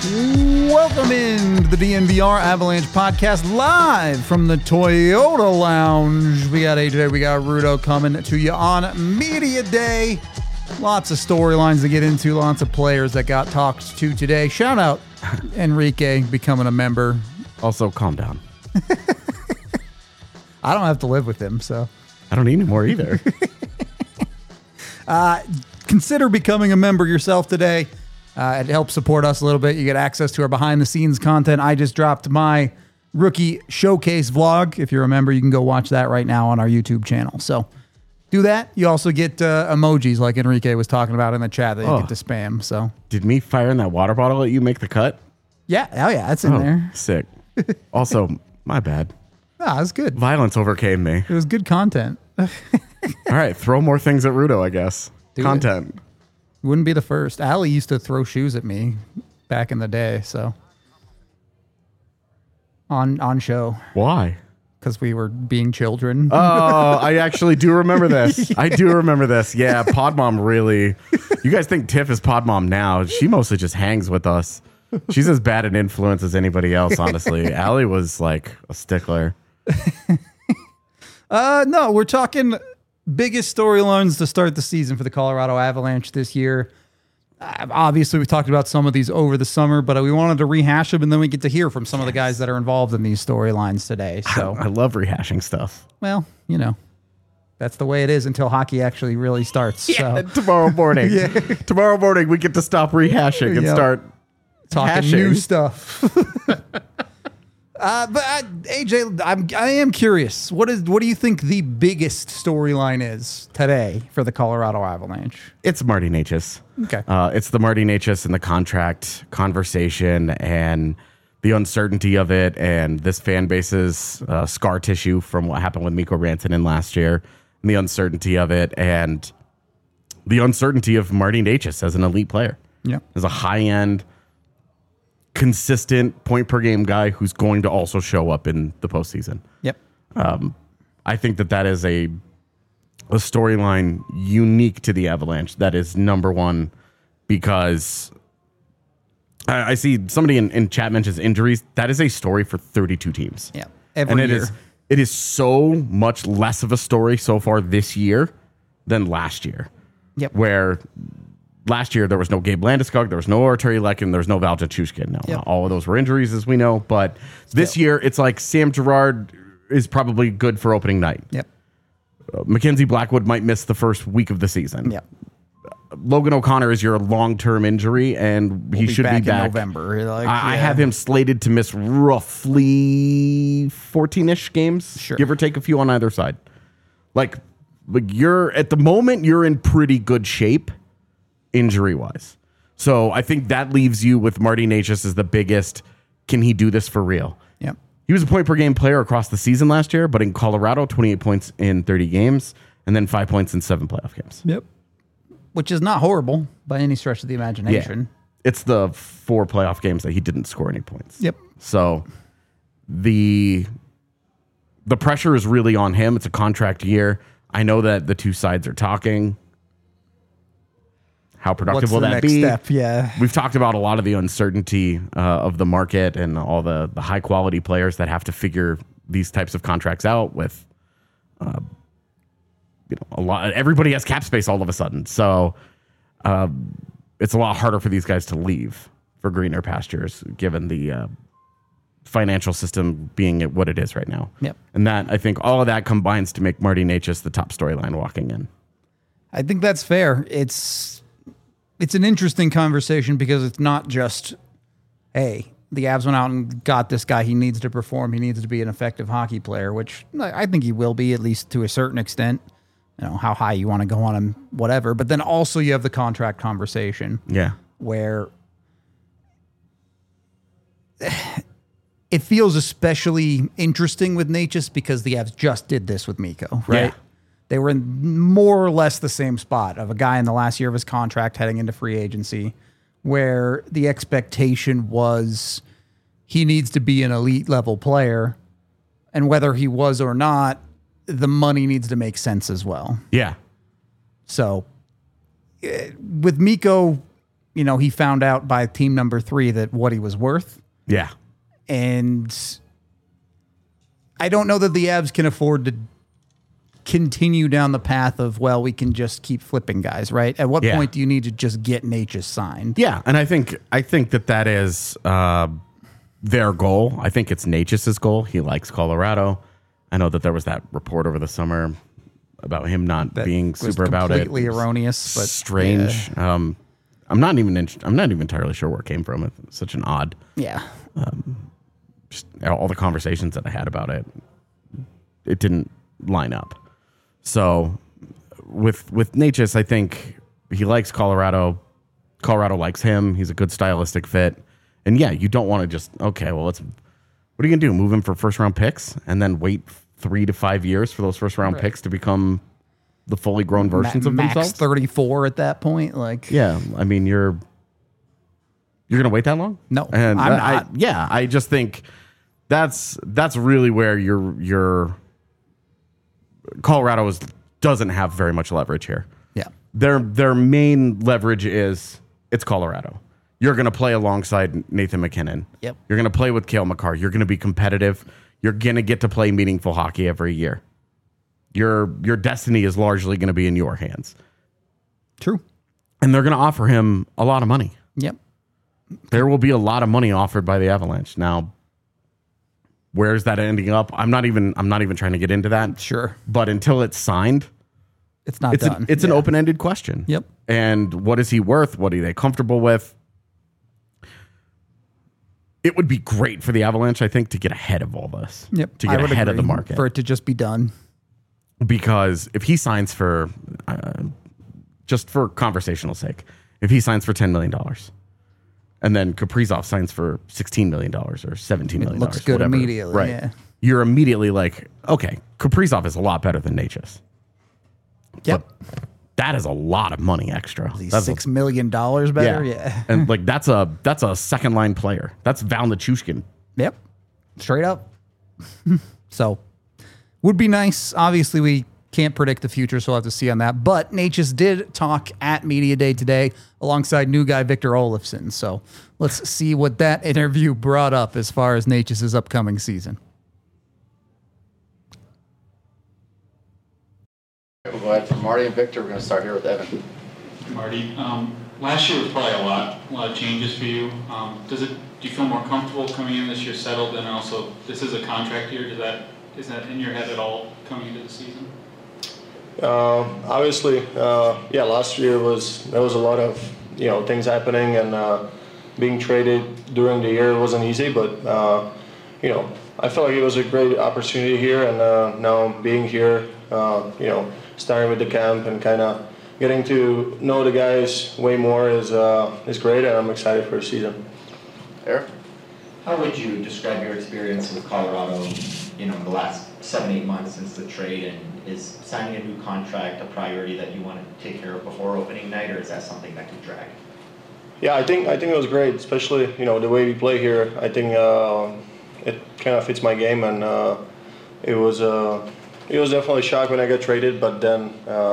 Welcome in to the DNVR Avalanche podcast live from the Toyota Lounge. We got AJ, we got Rudo coming to you on Media Day. Lots of storylines to get into, lots of players that got talked to today. Shout out Enrique becoming a member. Also, calm down. I don't have to live with him, so. I don't need any more either. Consider becoming a member yourself today. It helps support us a little bit. You get access to our behind-the-scenes content. I just dropped my rookie showcase vlog. If you're a member, you can go watch that right now on our YouTube channel. So do that. You also get emojis like Enrique was talking about in the chat that you get to spam. So Did me firing that water bottle at you make the cut? yeah, oh yeah, that's in there. Sick. Also, my bad. Ah, it's good. Violence overcame me. It was good content. All right, throw more things at Rudo, I guess. Content. Wouldn't be the first. Allie used to throw shoes at me back in the day, so on show Why? because we were being children. Oh, I actually do remember this. I do remember this. Yeah, Pod Mom really. You guys think Tiff is Pod Mom now. She mostly just hangs with us. She's as bad an influence as anybody else, honestly. Allie was like a stickler. No, we're talking biggest storylines to start the season for the Colorado Avalanche this year. Obviously, we've talked about some of these over the summer, but we wanted to rehash them, and then we get to hear from some of the guys that are involved in these storylines today. So, I love rehashing stuff. well, you know, that's the way it is until hockey actually really starts. Yeah, So, tomorrow morning. Tomorrow morning, we get to stop rehashing and Yep. start talking hashing. new stuff. AJ, I am curious. What do you think the biggest storyline is today for the Colorado Avalanche? It's Marty Necas. Okay. It's the Marty Necas and the contract conversation and the uncertainty of it and this fan base's scar tissue from what happened with Mikko Rantanen last year and the uncertainty of it and the uncertainty of Marty Necas as an elite player. Yeah. As a high-end, consistent point-per-game guy who's going to also show up in the postseason. Yep. I think that is a storyline unique to the Avalanche. That is number one because I see somebody in chat mentions injuries. That is a story for 32 teams. Yeah. Every year. It is so much less of a story so far this year than last year. Yep. Where last year there was no Gabe Landeskog, there was no Arturi Lekin, there was no Val Jachushkin. No, Yep. all of those were injuries, as we know. But this year, it's like Sam Girard is probably good for opening night. Yep. Mackenzie Blackwood might miss the first week of the season. Yep. Logan O'Connor is your long-term injury, and he should be back in November. Like, I have him slated to miss roughly 14-ish games, Sure. give or take a few on either side. Like you're at the moment, you're in pretty good shape injury-wise. So I think that leaves you with Marty Necas as the biggest, can he do this for real? Yep. He was a point-per-game player across the season last year, but in Colorado, 28 points in 30 games, and then 5 points in 7 playoff games. Yep. Which is not horrible by any stretch of the imagination. It's the 4 playoff games that he didn't score any points. Yep. So the pressure is really on him. It's a contract year. I know that the two sides are talking. How productive will that be? Step? Yeah. We've talked about a lot of the uncertainty of the market and all the high quality players that have to figure these types of contracts out with, a lot. Everybody has cap space all of a sudden, so it's a lot harder for these guys to leave for greener pastures, given the financial system being what it is right now. Yep. And that I think all of that combines to make Marty Necas the top storyline walking in. I think that's fair. It's an interesting conversation because it's not just, hey, the Avs went out and got this guy. He needs to perform. He needs to be an effective hockey player, which I think he will be, at least to a certain extent. You know, how high you want to go on him, whatever. But then also you have the contract conversation. Yeah. Where it feels especially interesting with Necas because the Avs just did this with Mikko, right? Yeah. They were in more or less the same spot of a guy in the last year of his contract heading into free agency where the expectation was he needs to be an elite level player. And whether he was or not, the money needs to make sense as well. Yeah. So with Mikko, he found out by team number 3 that what he was worth. Yeah. And I don't know that the Avs can afford to continue down the path of, well, we can just keep flipping guys, right? At what point do you need to just get Necas signed? Yeah, and I think that is their goal. I think it's Necas's goal. He likes Colorado. I know that there was that report over the summer about him not being super about it. Completely erroneous, but strange. Yeah. I'm not even entirely sure where it came from. It's such an odd. Yeah. Just all the conversations that I had about it, it didn't line up. So with Necas, I think he likes Colorado. Colorado likes him. He's a good stylistic fit. And yeah, you don't want to just, okay, well, what are you going to do? Move him for first round picks and then wait 3 to 5 years for those first round picks to become the fully grown versions of themselves? Max 34 at that point. Yeah, I mean, you're going to wait that long? No, and I'm not. I just think that's really where your Colorado doesn't have very much leverage here. Yeah. Their main leverage is it's Colorado. You're going to play alongside Nathan McKinnon. Yep. You're going to play with Cale Makar. You're going to be competitive. You're going to get to play meaningful hockey every year. Your destiny is largely going to be in your hands. True. And they're going to offer him a lot of money. Yep. There will be a lot of money offered by the Avalanche. Now, where's that ending up? I'm not even trying to get into that. Sure. But until it's signed, it's not done. It's an open-ended question. Yep. And what is he worth? What are they comfortable with? It would be great for the Avalanche, I think, to get ahead of all this. Yep. To get ahead of the market. For it to just be done. Because if he signs for, just for conversational sake, if he signs for $10 million and then Kaprizov signs for $16 million or $17 million. It looks good whatever, immediately. right? Yeah. You're immediately like, okay, Kaprizov is a lot better than Necas. Yep. But that is a lot of money extra. That's $6 million better. Yeah. And like that's a second line player. That's Val Nichushkin. Yep. Straight up. So would be nice. Obviously, we can't predict the future, so we'll have to see on that. But Necas did talk at Media Day today alongside new guy Victor Olofsson. So let's see what that interview brought up as far as Necas' upcoming season. We'll go ahead from Marty and Victor. We're going to start here with Evan. Marty, last year was probably a lot of changes for you. Do you feel more comfortable coming in this year, settled, and also this is a contract year? Is that in your head at all coming into the season? Obviously, last year there was a lot of things happening, and being traded during the year wasn't easy. But I felt like it was a great opportunity here, and now being here, starting with the camp and kind of getting to know the guys way more is great, and I'm excited for the season. Eric? How would you describe your experience with Colorado, the last 7-8 months since the trade, and is signing a new contract a priority that you want to take care of before opening night, or is that something that could drag? Yeah, I think it was great, especially the way we play here. I think it kind of fits my game, and it was definitely a shock when I got traded, but then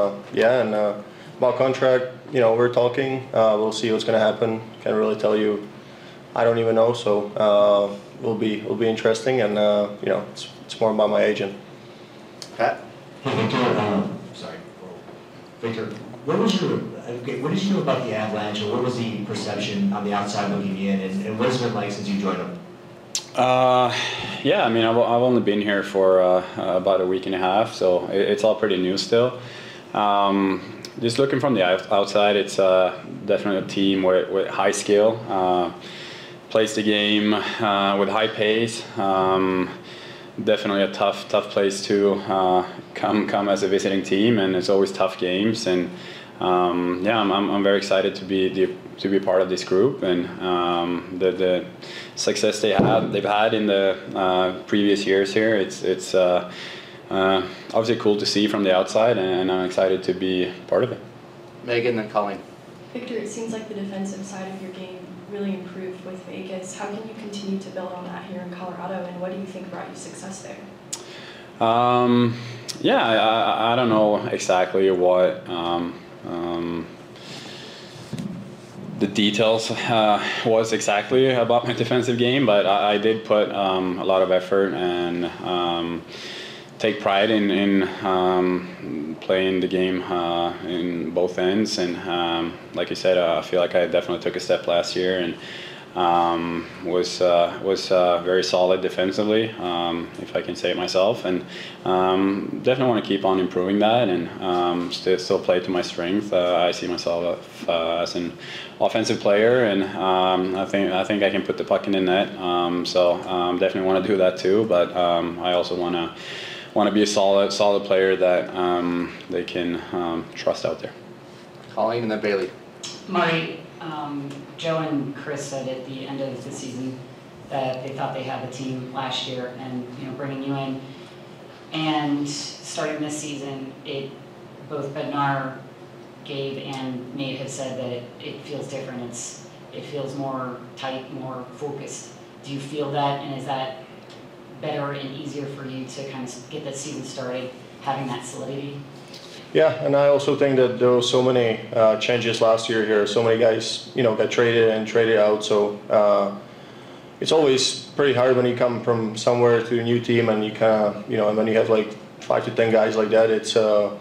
about contract, we're talking. We'll see what's going to happen. Can't really tell you. I don't even know, so it'll be interesting, and it's more about my agent. Pat? Hey, Victor. Victor, what did you know about the Avalanche, or what was the perception on the outside looking in, and what has it been like since you joined them? Yeah, I mean, I've only been here for about a week and a half, so it's all pretty new still. Just looking from the outside, it's definitely a team with high skill, plays the game with high pace. Definitely a tough place to come as a visiting team, and it's always tough games. And I'm very excited to be part of this group, and the success they've had in the previous years here. It's obviously cool to see from the outside, and I'm excited to be part of it. Megan, then Colleen. Victor, it seems like the defensive side of your game really improved with Vegas. How can you continue to build on that here in Colorado, and what do you think brought you success there? I don't know exactly what the details was exactly about my defensive game, but I did put a lot of effort and take pride in playing the game in both ends. And like you said, I feel like I definitely took a step last year and was very solid defensively, if I can say it myself, and definitely want to keep on improving that and still play to my strength. I see myself as an offensive player, and I think I can put the puck in the net. So definitely want to do that too. But I also want to be a solid player that they can trust out there. Colleen and then Bailey. Marty, Joe and Chris said at the end of the season that they thought they had the team last year, and bringing you in and starting this season, both Bednar, Gabe, and Nate have said that it feels different. It feels more tight, more focused. Do you feel that, and is that better and easier for you to kind of get the season started, having that solidity? Yeah, and I also think that there were so many changes last year here. So many guys, got traded and traded out. So it's always pretty hard when you come from somewhere to a new team and you kind of, and when you have like 5 to 10 guys like that, it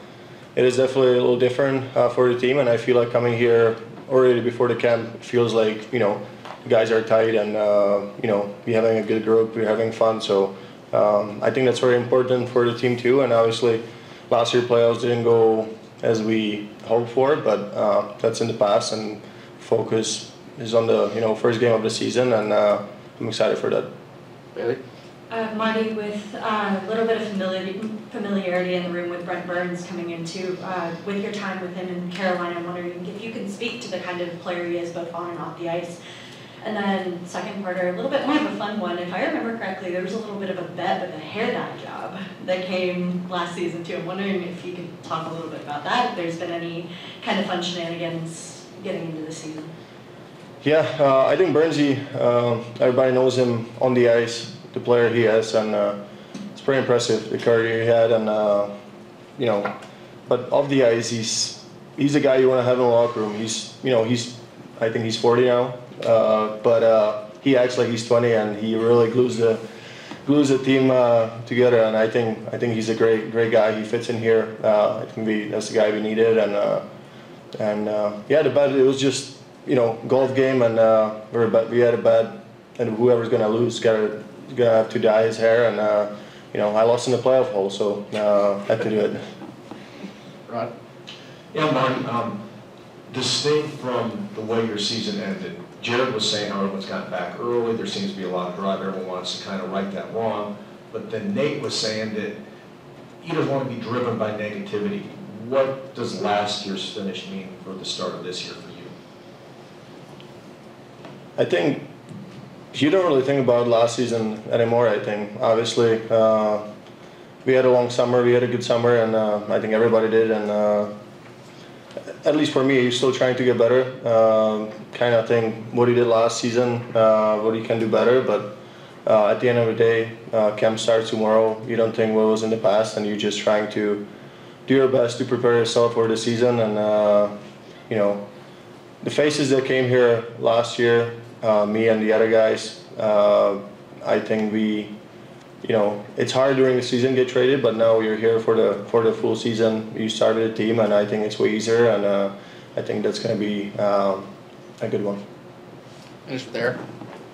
is definitely a little different for the team. And I feel like coming here already before the camp, it feels like, the guys are tight and, we're having a good group, we're having fun. So I think that's very important for the team too. And obviously, last year playoffs didn't go as we hoped for, but that's in the past, and focus is on the first game of the season, and I'm excited for that. Bailey? Marty, with a little bit of familiarity in the room with Brent Burns coming into, with your time with him in Carolina, I'm wondering if you can speak to the kind of player he is both on and off the ice. And then second part, a little bit more of a fun one. If I remember correctly, there was a little bit of a bet with a hair dye job that came last season too. I'm wondering if you could talk a little bit about that, if there's been any kind of fun shenanigans getting into the season. Yeah, I think Burnsy, everybody knows him on the ice, the player he is, and it's pretty impressive, the career he had, and but off the ice, he's a guy you want to have in the locker room. I think he's 40 now. But he acts like he's 20, and he really glues the team together. And I think he's a great guy. He fits in here. I think that's the guy we needed. And yeah, the bet, it was just golf game, and we had a bet, and whoever's gonna lose gonna have to dye his hair. And I lost in the playoff hole, so had to do it. Rod? Yeah, Martin. Distinct from the way your season ended, Jared was saying how everyone's gotten back early, there seems to be a lot of drive, everyone wants to kind of right that wrong, but then Nate was saying that he doesn't want to be driven by negativity. What does last year's finish mean for the start of this year for you? I think you don't really think about last season anymore, I think. Obviously, we had a long summer, we had a good summer, and I think everybody did, and at least for me, you're still trying to get better. Kind of think what he did last season, what he can do better. But at the end of the day, camp starts tomorrow. You don't think what was in the past, and you're just trying to do your best to prepare yourself for the season. And the faces that came here last year, me and the other guys, I think it's hard during the season to get traded, but now you're here for the full season. You started a team, and I think it's way easier, and I think that's going to be a good one. Finish with Eric.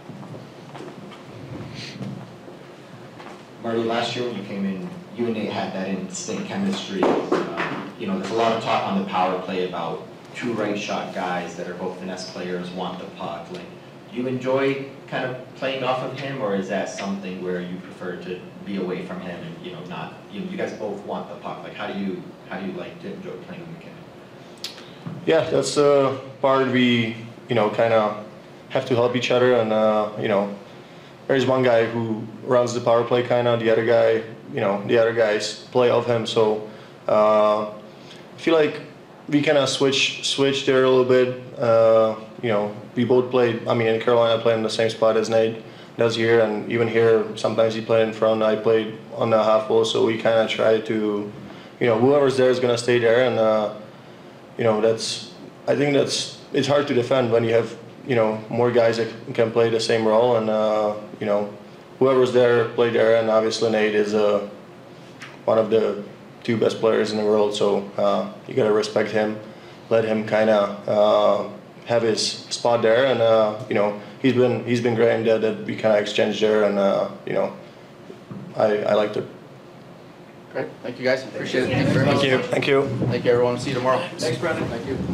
Marty, last year when you came in, you and Nate had that instant chemistry. There's a lot of talk on the power play about 2 right shot guys that are both finesse players, want the puck. Like, do you enjoy kind of playing off of him, or is that something where you prefer to be away from him and not? You guys both want the puck. Like, how do you like to enjoy playing with McKinnon? Yeah, that's the part we kind of have to help each other, and there's one guy who runs the power play kind of, the other guy, the other guys play off him. So I feel like we kind of switch there a little bit. We both played. In Carolina, I played in the same spot as Nate does here, and even here, sometimes he played in front. I played on the half wall, so we kind of try to, whoever's there is gonna stay there, and I think that's it's hard to defend when you have more guys that can play the same role, and whoever's there played there, and obviously Nate is one of the 2 best players in the world, so you gotta respect him, let him kind of have his spot there, and he's been great in that we kind of exchanged there, and I liked it. Great. Thank you, guys. Appreciate it. Thank you very much. Thank you. Thank you, everyone. See you tomorrow. Thanks, Brendan. Thank you.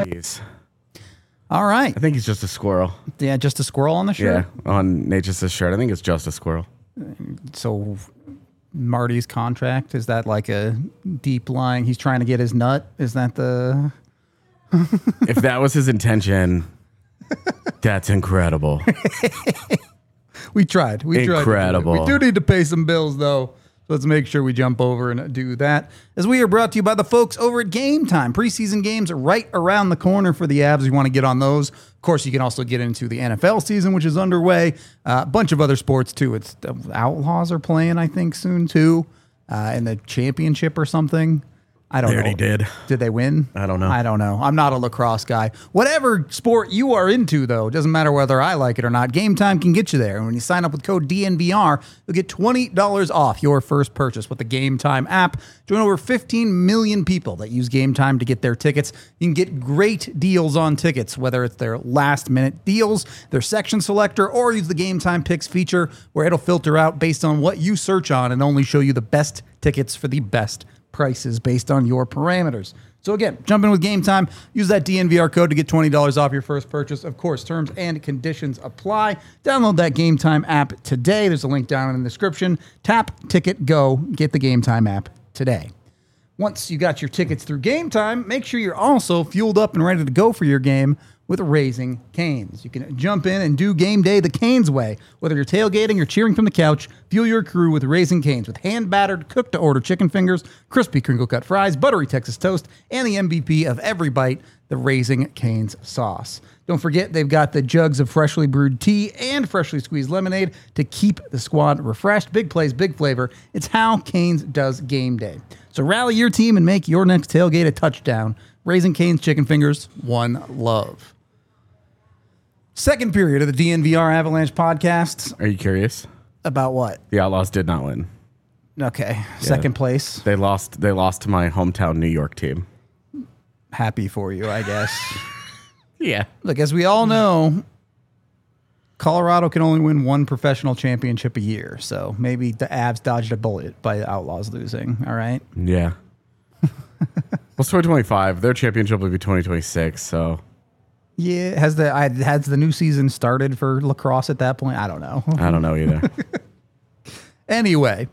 All right. I think he's just a squirrel. Yeah, just a squirrel on the shirt? Yeah, on Nature's shirt. I think it's just a squirrel. So Marty's contract, is that like a deep lying? He's trying to get his nut? Is that the... If that was his intention, that's incredible. We tried. Incredible. We do need to pay some bills, though. So let's make sure we jump over and do that. As we are brought to you by the folks over at Game Time. Preseason games are right around the corner for the Avs. You want to get on those. Of course, you can also get into the NFL season, which is underway. A bunch of other sports, too. It's the Outlaws are playing, I think, soon, too, in the championship or something. I don't know. They already did. Did they win? I don't know. I'm not a lacrosse guy. Whatever sport you are into, though, doesn't matter whether I like it or not, Game Time can get you there. And when you sign up with code DNVR, you'll get $20 off your first purchase with the Game Time app. Join over 15 million people that use Game Time to get their tickets. You can get great deals on tickets, whether it's their last-minute deals, their section selector, or use the Game Time Picks feature, where it'll filter out based on what you search on and only show you the best tickets for the best prices based on your parameters. So again, jump in with Game Time. Use that DNVR code to get $20 off your first purchase. Of course, terms and conditions apply. Download that Game Time app today. There's a link down in the description. Tap, ticket, go. Get the Game Time app today. Once you got your tickets through Game Time, make sure you're also fueled up and ready to go for your game with Raising Cane's. You can jump in and do game day the Cane's way. Whether you're tailgating or cheering from the couch, fuel your crew with Raising Cane's with hand-battered, cooked-to-order chicken fingers, crispy crinkle-cut fries, buttery Texas toast, and the MVP of every bite, the Raising Cane's sauce. Don't forget, they've got the jugs of freshly brewed tea and freshly squeezed lemonade to keep the squad refreshed. Big plays, big flavor. It's how Cane's does game day. So rally your team and make your next tailgate a touchdown. Raising Cane's chicken fingers, one love. Second period of the DNVR Avalanche podcast. Are you curious? About what? The Outlaws did not win. Okay, second place. They lost to my hometown New York team. Happy for you, I guess. Yeah. Look, as we all know, Colorado can only win one professional championship a year. So maybe the Avs dodged a bullet by the Outlaws losing. All right? Yeah. Well, it's 2025. Their championship will be 2026, so... Yeah, has the new season started for lacrosse at that point? I don't know. I don't know either. Anyway,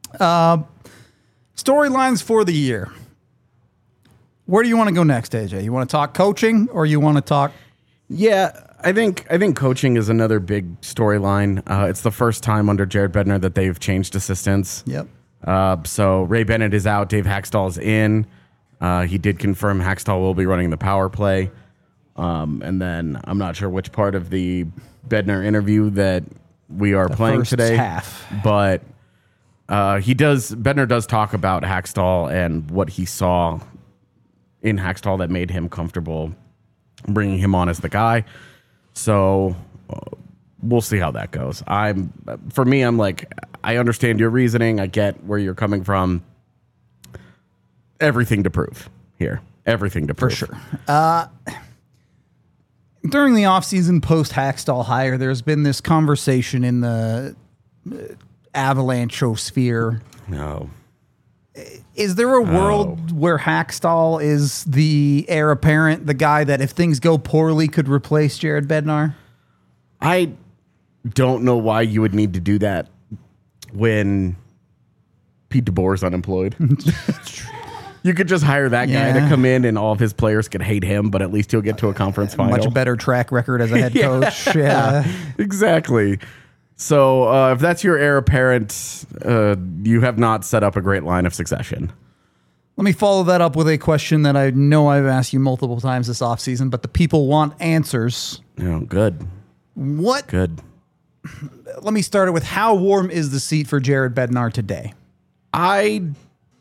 storylines for the year. Where do you want to go next, AJ? You want to talk coaching, or you want to talk? Yeah, I think coaching is another big storyline. It's the first time under Jared Bednar that they've changed assistants. Yep. So Ray Bennett is out. Dave Haxtell is in. He did confirm Haxtell will be running the power play. And then I'm not sure which part of the Bednar interview that we are playing today. Half. But Bednar does talk about Haxtell and what he saw in Haxtell that made him comfortable bringing him on as the guy. So we'll see how that goes. For me, I'm like, I understand your reasoning. I get where you're coming from. Everything to prove here. Everything to prove. For sure. During the offseason post-Haxtell hire, there's been this conversation in the Avalanche-sphere. No. Is there a world where Haxtell is the heir apparent, the guy that if things go poorly could replace Jared Bednar? I don't know why you would need to do that when Pete DeBoer is unemployed. You could just hire that guy to come in and all of his players could hate him, but at least he'll get to a conference final. Much better track record as a head coach. Yeah, exactly. So if that's your heir apparent, you have not set up a great line of succession. Let me follow that up with a question that I know I've asked you multiple times this offseason, but the people want answers. Oh, good. What? Good. Let me start it with how warm is the seat for Jared Bednar today?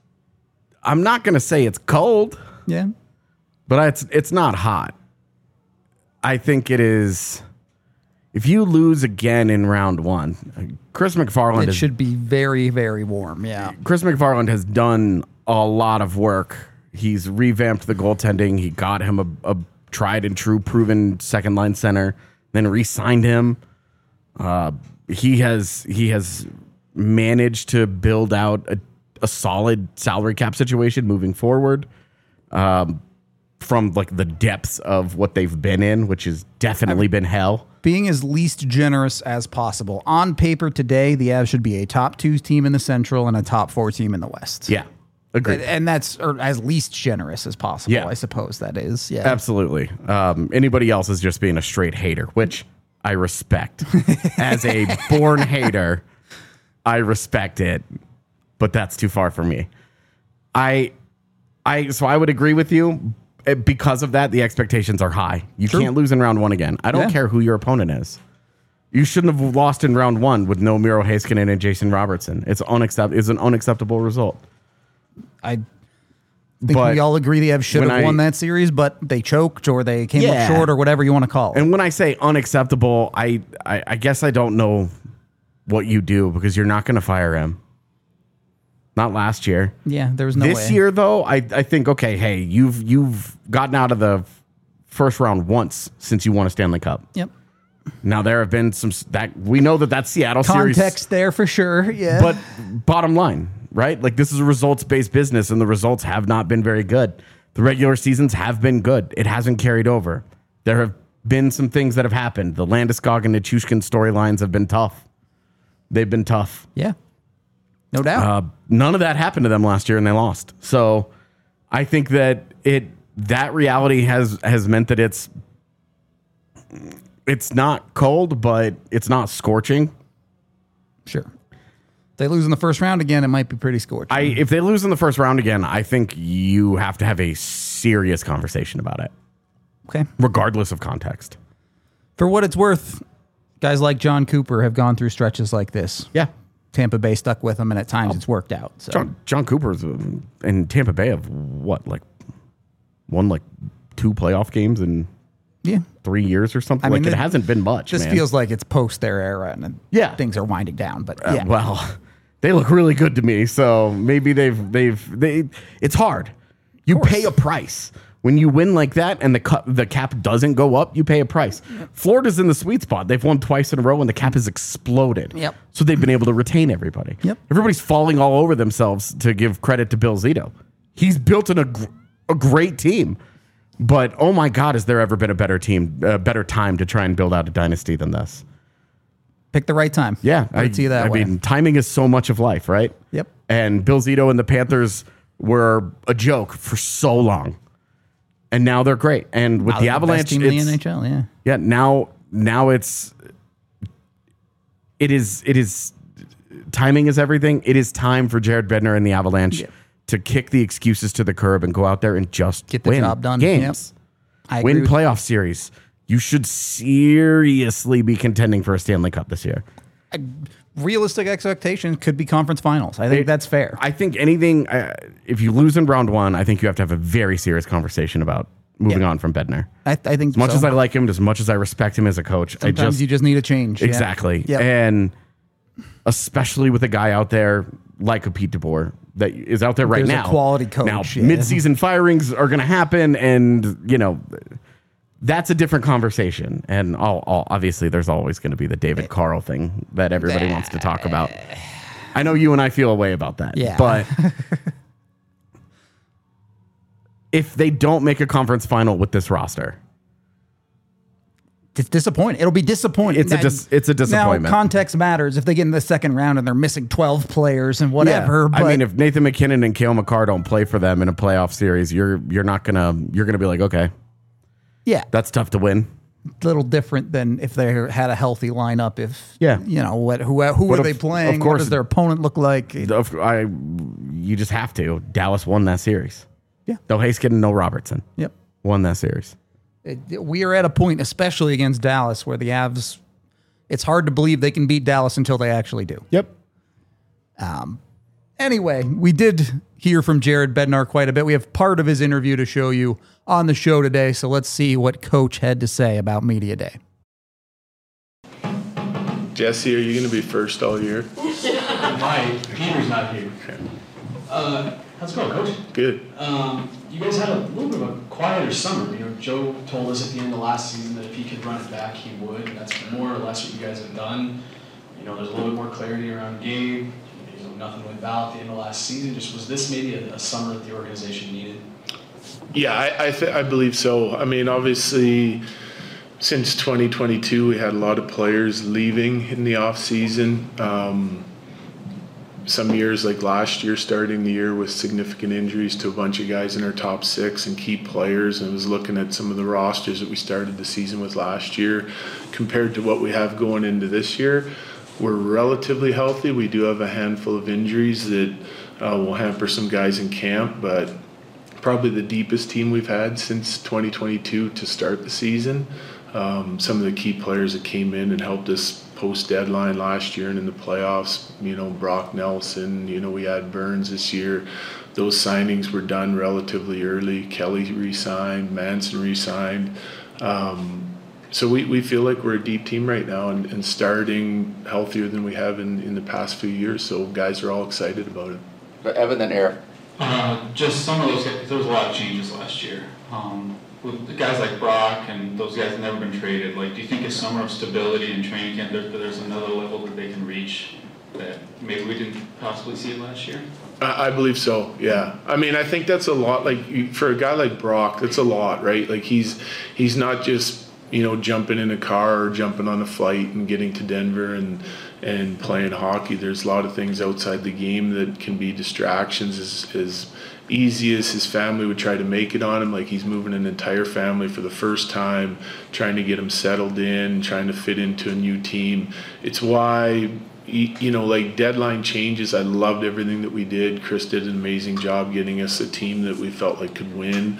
I'm not going to say it's cold. Yeah. But it's not hot. I think it is. If you lose again in round one, Chris McFarland It should be very, very warm. Yeah. Chris McFarland has done a lot of work. He's revamped the goaltending. He got him a tried and true, proven second line center, then re-signed him. He has managed to build out a solid salary cap situation moving forward. From like the depths of what they've been in, which has definitely been hell. Being as least generous as possible. On paper today, the Avs should be a top 2 team in the Central and a top 4 team in the West. Yeah, agreed. And that's as least generous as possible, Yeah. I suppose that is. Yeah, Absolutely. Anybody else is just being a straight hater, which I respect. As a born hater, I respect it, but that's too far for me. So I would agree with you. Because of that, the expectations are high. You can't lose in round one again. I don't care who your opponent is. You shouldn't have lost in round one with no Miro Heiskanen and Jason Robertson. It's an unacceptable result. I think we all agree the Avs should have won that series, but they choked or they came up short or whatever you want to call it. And when I say unacceptable, I guess I don't know what you do because you're not going to fire him. Not last year. Yeah, there's no way. This year, though, I think, okay, hey, you've gotten out of the first round once since you won a Stanley Cup. Yep. Now, there have been some that we know that Seattle series. Context there for sure, yeah. But bottom line, right? Like, this is a results-based business, and the results have not been very good. The regular seasons have been good. It hasn't carried over. There have been some things that have happened. The Landeskog and Nichushkin storylines have been tough. They've been tough. Yeah. No doubt. None of that happened to them last year, and they lost. So I think that that reality has meant that it's not cold, but it's not scorching. Sure. If they lose in the first round again, it might be pretty scorching. If they lose in the first round again, I think you have to have a serious conversation about it. Okay. Regardless of context. For what it's worth, guys like John Cooper have gone through stretches like this. Yeah. Tampa Bay stuck with him, and at times it's worked out. So. John Cooper's in Tampa Bay have won 2 playoff games in 3 years or something. It hasn't been much. This feels like it's post their era, and things are winding down. But well, they look really good to me. So maybe it's hard. You pay a price. When you win like that and the cap doesn't go up, you pay a price. Yep. Florida's in the sweet spot. They've won twice in a row and the cap has exploded. Yep. So they've been able to retain everybody. Yep. Everybody's falling all over themselves to give credit to Bill Zito. He's built a great team. But, oh my God, has there ever been a better time to try and build out a dynasty than this? Pick the right time. Yeah. I see that way. I mean, timing is so much of life, right? Yep. And Bill Zito and the Panthers were a joke for so long. And now they're great. And with the Avalanche, best team in the NHL, yeah. Yeah, now it is timing is everything. It is time for Jared Bednar and the Avalanche to kick the excuses to the curb and go out there and just get the job done. Games. Yep. Win playoff series. You should seriously be contending for a Stanley Cup this year. Realistic expectations could be conference finals. I think that's fair. I think anything, if you lose in round one, I think you have to have a very serious conversation about moving on from Bednar. I think as much as I like him, as much as I respect him as a coach, sometimes you just need a change. Exactly. Yeah. And especially with a guy out there like a Pete DeBoer that is out there right now. A quality coach. Now, mid-season firings are going to happen, and, that's a different conversation. And obviously, there's always going to be the David Carl thing that everybody wants to talk about. I know you and I feel a way about that. Yeah. But if they don't make a conference final with this roster, it's disappointing. It'll be disappointing. It's a disappointment. Now, context matters. If they get in the second round and they're missing 12 players and whatever. Yeah. But if Nathan McKinnon and Cale Makar don't play for them in a playoff series, you're gonna be like, okay. Yeah. That's tough to win. A little different than if they had a healthy lineup. Who are they playing? Of course, what does their opponent look like? You just have to. Dallas won that series. Yeah. No Heiskanen, no Robertson. Yep. Won that series. We are at a point, especially against Dallas, where the Avs, it's hard to believe they can beat Dallas until they actually do. Yep. Anyway, we did hear from Jared Bednar quite a bit. We have part of his interview to show you on the show today, so let's see what Coach had to say about Media Day. Jesse, are you going to be first all year? Mike, Peter's not here. How's it going, Coach? Good. You guys had a little bit of a quieter summer. You know, Joe told us at the end of last season that if he could run it back, he would. And that's more or less what you guys have done. You know, there's a little bit more clarity around Gabe. You know, nothing with Val at the end of last season. Just was this maybe a summer that the organization needed? Yeah, I believe so. I mean, obviously, since 2022, we had a lot of players leaving in the off season. Some years, like last year, starting the year with significant injuries to a bunch of guys in our top 6 and key players, and was looking at some of the rosters that we started the season with last year compared to what we have going into this year. We're relatively healthy. We do have a handful of injuries that will hamper some guys in camp, but probably the deepest team we've had since 2022 to start the season. Some of the key players that came in and helped us post-deadline last year and in the playoffs, you know, Brock Nelson, you know, we had Burns this year. Those signings were done relatively early. Kelly re-signed, Manson re-signed. So we feel like we're a deep team right now and starting healthier than we have in the past few years. So guys are all excited about it. But Evan, then Eric. Just some of those guys, there was a lot of changes last year. With the guys like Brock and those guys have never been traded, like, do you think a summer of stability and training camp, there's another level that they can reach that maybe we didn't possibly see it last year? I believe so, yeah. I mean, I think that's a lot. Like, for a guy like Brock, that's a lot, right? Like, he's not just, you know, jumping in a car or jumping on a flight and getting to Denver and playing hockey. There's a lot of things outside the game that can be distractions as easy as his family would try to make it on him. Like, he's moving an entire family for the first time, trying to get him settled in, trying to fit into a new team. It's why, you know, like, deadline changes, I loved everything that we did. Chris did an amazing job getting us a team that we felt like could win.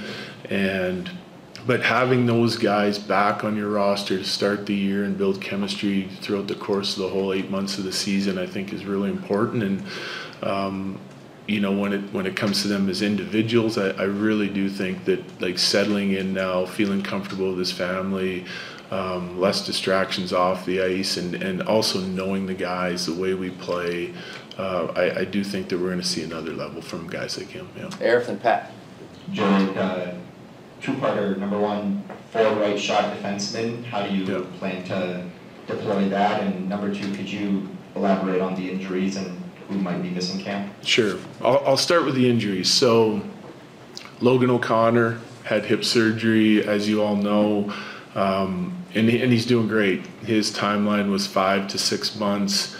But having those guys back on your roster to start the year and build chemistry throughout the course of the whole 8 months of the season, I think is really important. And you know, when it comes to them as individuals, I really do think that, like, settling in now, feeling comfortable with his family, less distractions off the ice, and also knowing the guys, the way we play, I do think that we're going to see another level from guys like him. Yeah. Eric and Pat. Joey, two-parter. Number one, forward right shot defenseman. How do you plan to deploy that? And number two, could you elaborate on the injuries and who might be missing camp? Sure. I'll start with the injuries. So Logan O'Connor had hip surgery, as you all know, and he's doing great. His timeline was 5 to 6 months.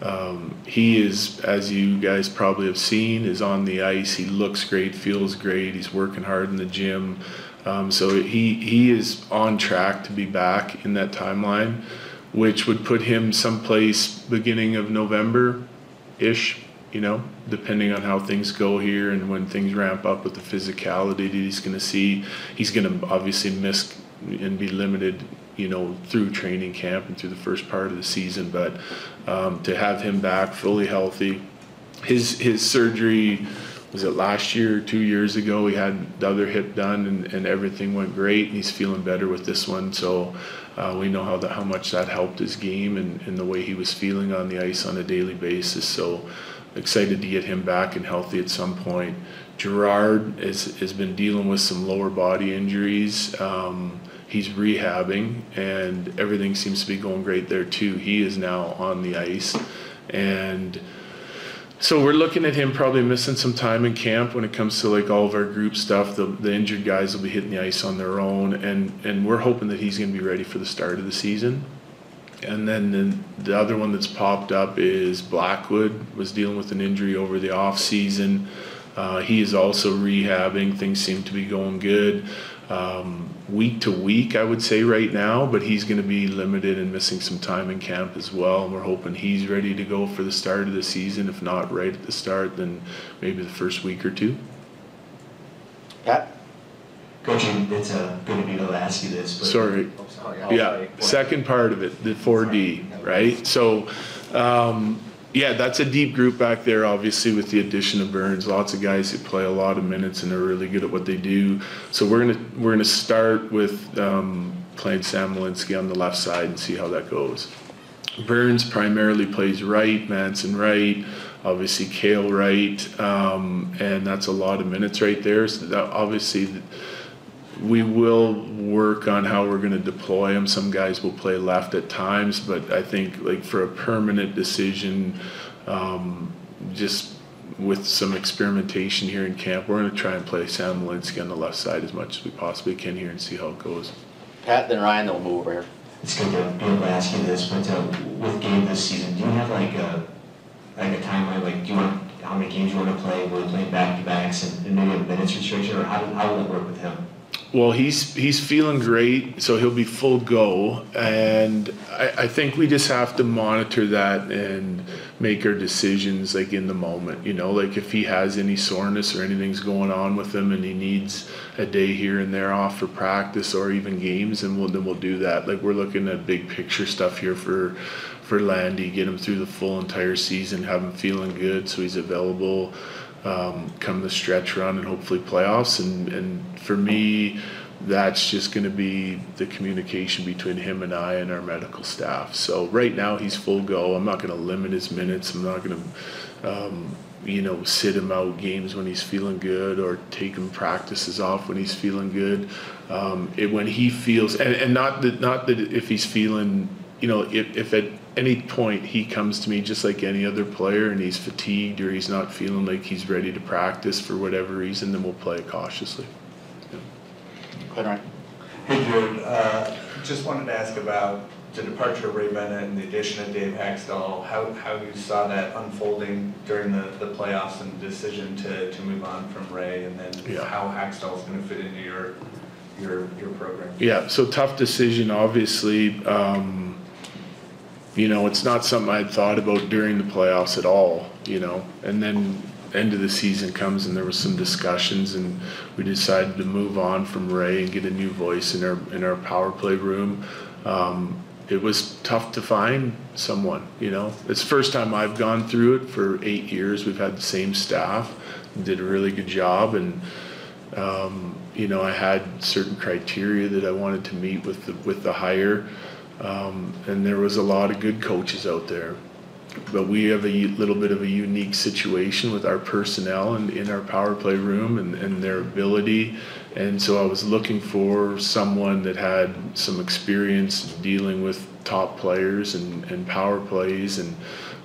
He is, as you guys probably have seen, is on the ice. He looks great, feels great. He's working hard in the gym. So he is on track to be back in that timeline, which would put him someplace beginning of November-ish, you know, depending on how things go here and when things ramp up with the physicality that he's going to see. He's going to obviously miss and be limited, you know, through training camp and through the first part of the season. But to have him back fully healthy, his surgery, was it last year or 2 years ago? He had the other hip done and everything went great. And he's feeling better with this one. So we know how much that helped his game and the way he was feeling on the ice on a daily basis. So excited to get him back and healthy at some point. Gerard has been dealing with some lower body injuries. He's rehabbing, and everything seems to be going great there too. He is now on the ice, and so we're looking at him probably missing some time in camp when it comes to, like, all of our group stuff. The injured guys will be hitting the ice on their own, and we're hoping that he's going to be ready for the start of the season. And then the other one that's popped up is Blackwood was dealing with an injury over the off season. He is also rehabbing. Things seem to be going good. Week to week, I would say right now, but he's going to be limited and missing some time in camp as well. And we're hoping he's ready to go for the start of the season. If not right at the start, then maybe the first week or two. Pat? Coach, it's good to be able to ask you this. But Sorry. Yeah, second part of it, the 4D, right? So Yeah, that's a deep group back there, obviously, with the addition of Burns. Lots of guys who play a lot of minutes and are really good at what they do. So we're gonna start with playing Sam Malinsky on the left side and see how that goes. Burns primarily plays right, Manson right, obviously Kale right, and that's a lot of minutes right there. So that obviously we will work on how we're going to deploy him. Some guys will play left at times, but I think like for a permanent decision, just with some experimentation here in camp, we're going to try and play Sam Malinsky on the left side as much as we possibly can here and see how it goes. Pat, then Ryan, then we'll move over here. It's good to be able to ask you this, but with Gabe this season, do you have like a timeline? Like, do you want how many games you want to play? Will you play back-to-backs and maybe a minutes restriction, or how will that work with him? Well, he's feeling great, so he'll be full go, and I think we just have to monitor that and make our decisions like in the moment. You know, like if he has any soreness or anything's going on with him, and he needs a day here and there off for practice or even games, and we'll do that. Like we're looking at big picture stuff here for Landy, get him through the full entire season, have him feeling good, so he's available. Come the stretch run and hopefully playoffs, and for me that's just going to be the communication between him and I and our medical staff. So right now he's full go. I'm not going to limit his minutes. I'm not going to sit him out games when he's feeling good or take him practices off when he's feeling good. When he feels and not that if he's feeling, if at any point he comes to me just like any other player and he's fatigued or he's not feeling like he's ready to practice for whatever reason, then we'll play it cautiously. Go ahead, Ryan. Hey, Jared. Just wanted to ask about the departure of Ray Bennett and the addition of Dave Haxtell, how you saw that unfolding during the playoffs and the decision to move on from Ray, and then how Haxtell is going to fit into your program. Yeah, so tough decision, obviously. It's not something I'd thought about during the playoffs at all, and then end of the season comes and there was some discussions and we decided to move on from Ray and get a new voice in our power play room. It was tough to find someone, It's the first time I've gone through it. For 8 years we've had the same staff and did a really good job, and I had certain criteria that I wanted to meet with the hire. And there was a lot of good coaches out there, but we have a little bit of a unique situation with our personnel and in our power play room and their ability. And so I was looking for someone that had some experience dealing with top players and power plays and,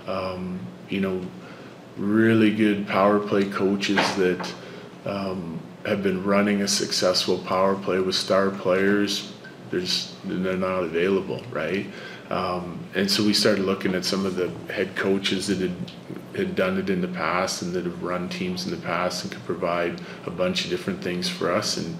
really good power play coaches that have been running a successful power play with star players. They're not available, right? And so we started looking at some of the head coaches that had done it in the past and that have run teams in the past and could provide a bunch of different things for us. And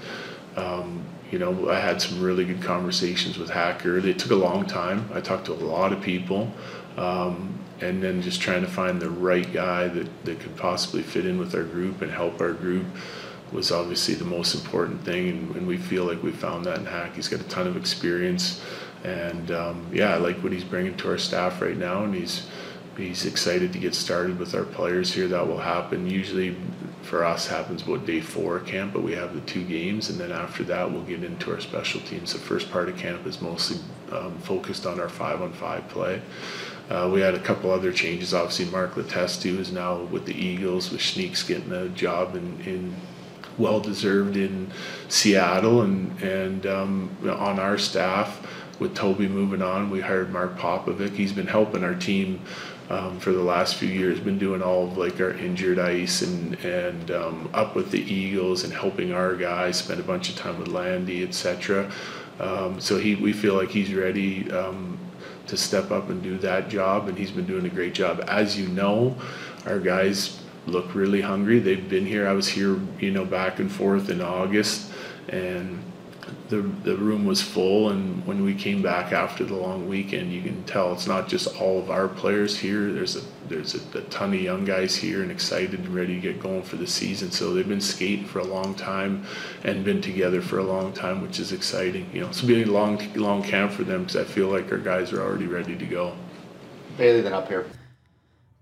I had some really good conversations with Hacker. It took a long time. I talked to a lot of people, and then just trying to find the right guy that could possibly fit in with our group and help our group was obviously the most important thing, and we feel like we found that in Hack. He's got a ton of experience, and I like what he's bringing to our staff right now, and he's excited to get started with our players here. That will happen usually for us happens about day 4 of camp, but we have the 2 games, and then after that we'll get into our special teams. The first part of camp is mostly focused on our 5-on-5 play. We had a couple other changes. Obviously Mark Letestu is now with the Eagles, with Schneeks getting a job in well-deserved in Seattle, and on our staff with Toby moving on, we hired Mark Popovic. He's been helping our team for the last few years, been doing all of like our injured ice and up with the Eagles and helping our guys, spent a bunch of time with Landy, etc. So we feel like he's ready to step up and do that job, and he's been doing a great job. As you know, our guys look really hungry. They've been here. I was here, back and forth in August, and the room was full. And when we came back after the long weekend, you can tell it's not just all of our players here. There's a ton of young guys here and excited and ready to get going for the season. So they've been skating for a long time and been together for a long time, which is exciting. It's been a long camp for them because I feel like our guys are already ready to go. Bailey, then up here.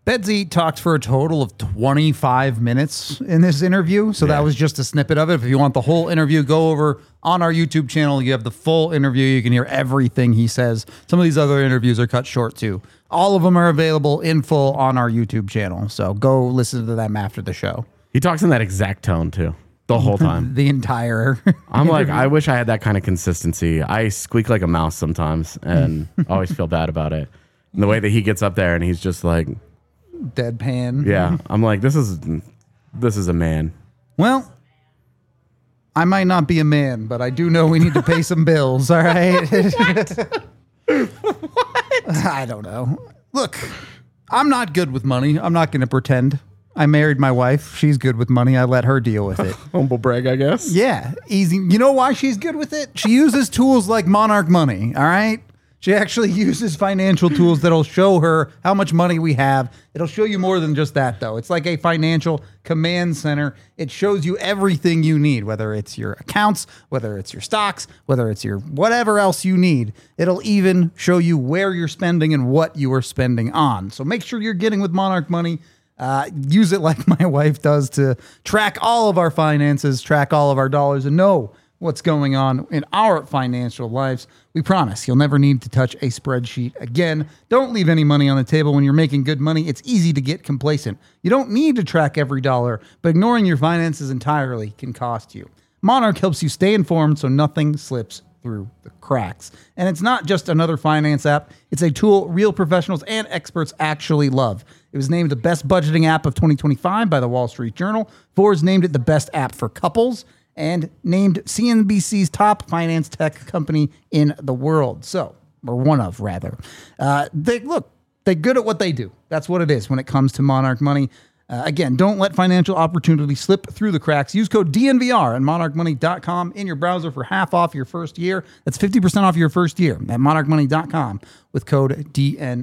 Bedsy talked for a total of 25 minutes in this interview. So that was just a snippet of it. If you want the whole interview, go over on our YouTube channel. You have the full interview. You can hear everything he says. Some of these other interviews are cut short too. All of them are available in full on our YouTube channel. So go listen to them after the show. He talks in that exact tone too. The whole time. The entire I'm like, I wish I had that kind of consistency. I squeak like a mouse sometimes and always feel bad about it. And the way that he gets up there and he's just like deadpan. Yeah. I'm like, this is a man. Well, I might not be a man, but I do know we need to pay some bills, all right? What? I don't know. Look, I'm not good with money. I'm not going to pretend. I married my wife. She's good with money. I let her deal with it. Humble brag, I guess. Yeah, easy. You know why she's good with it? She uses tools like Monarch Money, all right? She actually uses financial tools that'll show her how much money we have. It'll show you more than just that, though. It's like a financial command center. It shows you everything you need, whether it's your accounts, whether it's your stocks, whether it's your whatever else you need. It'll even show you where you're spending and what you are spending on. So make sure you're getting with Monarch Money. Use it like my wife does to track all of our finances, track all of our dollars, and know what's going on in our financial lives. We promise you'll never need to touch a spreadsheet again. Don't leave any money on the table when you're making good money. It's easy to get complacent. You don't need to track every dollar, but ignoring your finances entirely can cost you. Monarch helps you stay informed so nothing slips through the cracks. And it's not just another finance app. It's a tool real professionals and experts actually love. It was named the best budgeting app of 2025 by the Wall Street Journal. Forbes named it the best app for couples and named CNBC's top finance tech company in the world. So, or one of, rather. They're good at what they do. That's what it is when it comes to Monarch Money. Again, don't let financial opportunity slip through the cracks. Use code DNVR at monarchmoney.com in your browser for half off your first year. That's 50% off your first year at monarchmoney.com with code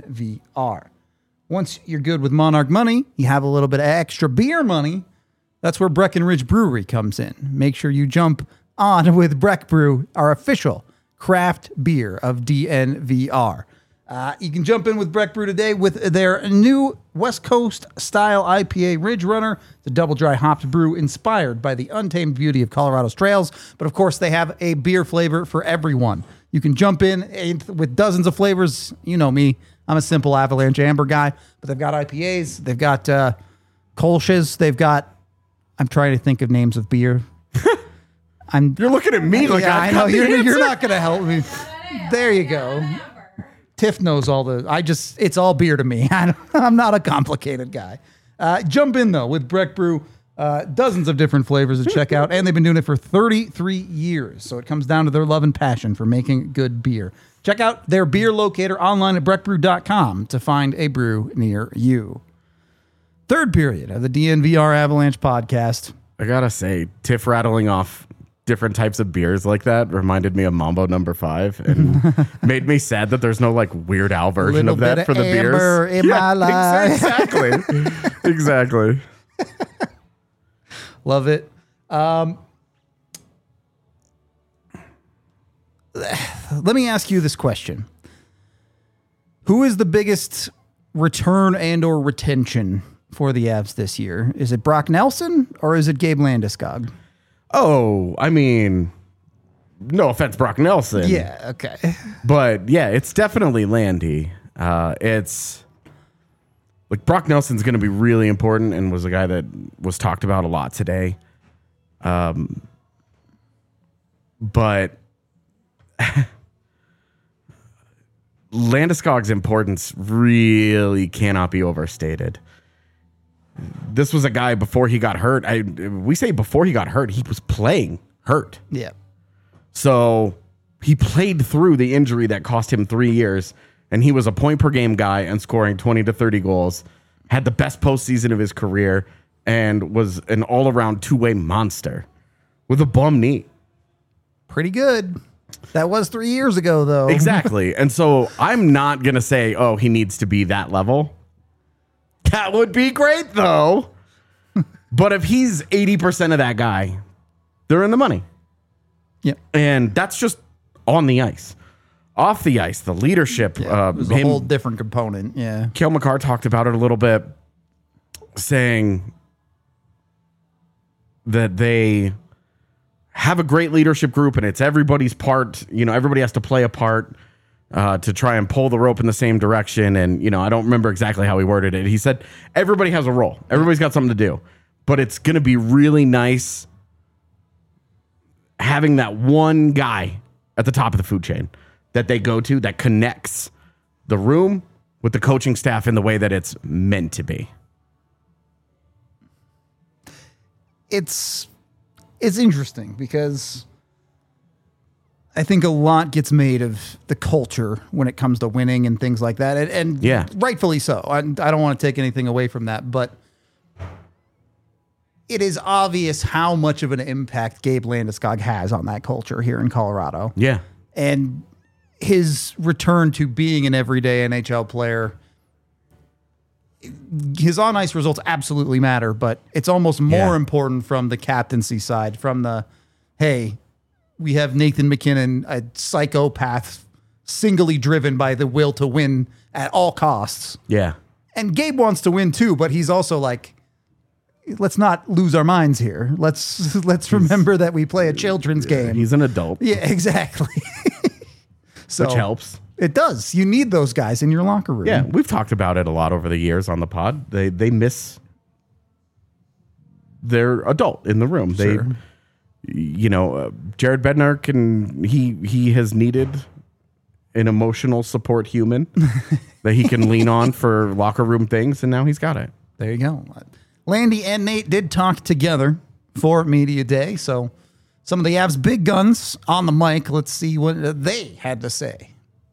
DNVR. Once you're good with Monarch Money, you have a little bit of extra beer money. That's where Breckenridge Brewery comes in. Make sure you jump on with Breck Brew, our official craft beer of DNVR. You can jump in with Breck Brew today with their new West Coast style IPA Ridge Runner. It's a double dry hopped brew inspired by the untamed beauty of Colorado's trails. But of course, they have a beer flavor for everyone. You can jump in with dozens of flavors. You know me. I'm a simple Avalanche Amber guy. But they've got IPAs. They've got Kolsch's. They've got... I'm trying to think of names of beer. You're looking at me like I know. You're not going to help me. There you go. Tiff knows all the... it's all beer to me. I'm not a complicated guy. Jump in, though, with Breck Brew. Dozens of different flavors to check out, and they've been doing it for 33 years. So it comes down to their love and passion for making good beer. Check out their beer locator online at breckbrew.com to find a brew near you. Third period of the DNVR Avalanche podcast. I gotta say, Tiff rattling off different types of beers like that reminded me of Mambo No. 5 and made me sad that there's no like Weird Al version of that for the beers. In my life. Exactly. Exactly. Love it. Let me ask you this question. Who is the biggest return and or retention for the Avs this year? Is it Brock Nelson or is it Gabe Landeskog? Oh, I mean, no offense, Brock Nelson. Yeah, okay. But yeah, it's definitely Landy. It's like Brock Nelson's going to be really important and was a guy that was talked about a lot today. But Landeskog's importance really cannot be overstated. This was a guy before he got hurt. We say before he got hurt, he was playing hurt. Yeah. So he played through the injury that cost him 3 years, and he was a point per game guy and scoring 20 to 30 goals, had the best postseason of his career, and was an all-around two-way monster with a bum knee. Pretty good. That was 3 years ago, though. Exactly. And so I'm not going to say, oh, he needs to be that level. That would be great, though. But if he's 80% of that guy, they're in the money. Yeah. And that's just on the ice. off the ice, the leadership. It was a whole different component. Yeah. Cale Makar talked about it a little bit, saying that they have a great leadership group and it's everybody's part. Everybody has to play a part to try and pull the rope in the same direction. And, I don't remember exactly how he worded it. He said, everybody has a role. Everybody's got something to do. But it's going to be really nice having that one guy at the top of the food chain that they go to that connects the room with the coaching staff in the way that it's meant to be. It's interesting because I think a lot gets made of the culture when it comes to winning and things like that. And rightfully so. I don't want to take anything away from that, but it is obvious how much of an impact Gabe Landeskog has on that culture here in Colorado. Yeah. And his return to being an everyday NHL player, his on-ice results absolutely matter, but it's almost more important from the captaincy side, from the, hey, we have Nathan MacKinnon, a psychopath, singly driven by the will to win at all costs. Yeah. And Gabe wants to win too, but he's also like, let's not lose our minds here. Let's remember that we play a children's game. He's an adult. Yeah, exactly. Which helps. It does. You need those guys in your locker room. Yeah, we've talked about it a lot over the years on the pod. They miss their adult in the room. Sure. Jared Bednar he has needed an emotional support human that he can lean on for locker room things, and now he's got it. There you go. Landy and Nate did talk together for Media Day, so some of the Avs big guns on the mic. Let's see what they had to say.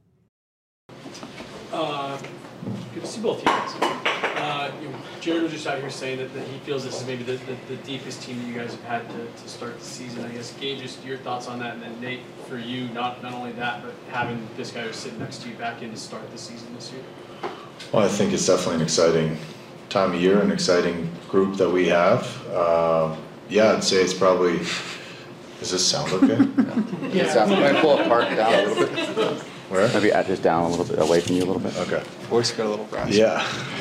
Good to see both teams. Jared was just out here saying that he feels this is maybe the deepest team that you guys have had to start the season. I guess, Gabe, just your thoughts on that, and then Nate, for you, not only that, but having this guy who's sitting next to you back in to start the season this year. Well, I think it's definitely an exciting time of year, an exciting group that we have. I'd say it's probably. Does this sound okay? Yeah. Can I pull a part down a little bit? Where? Maybe just down a little bit, away from you a little bit. Okay. Voice got a little raspy. Yeah.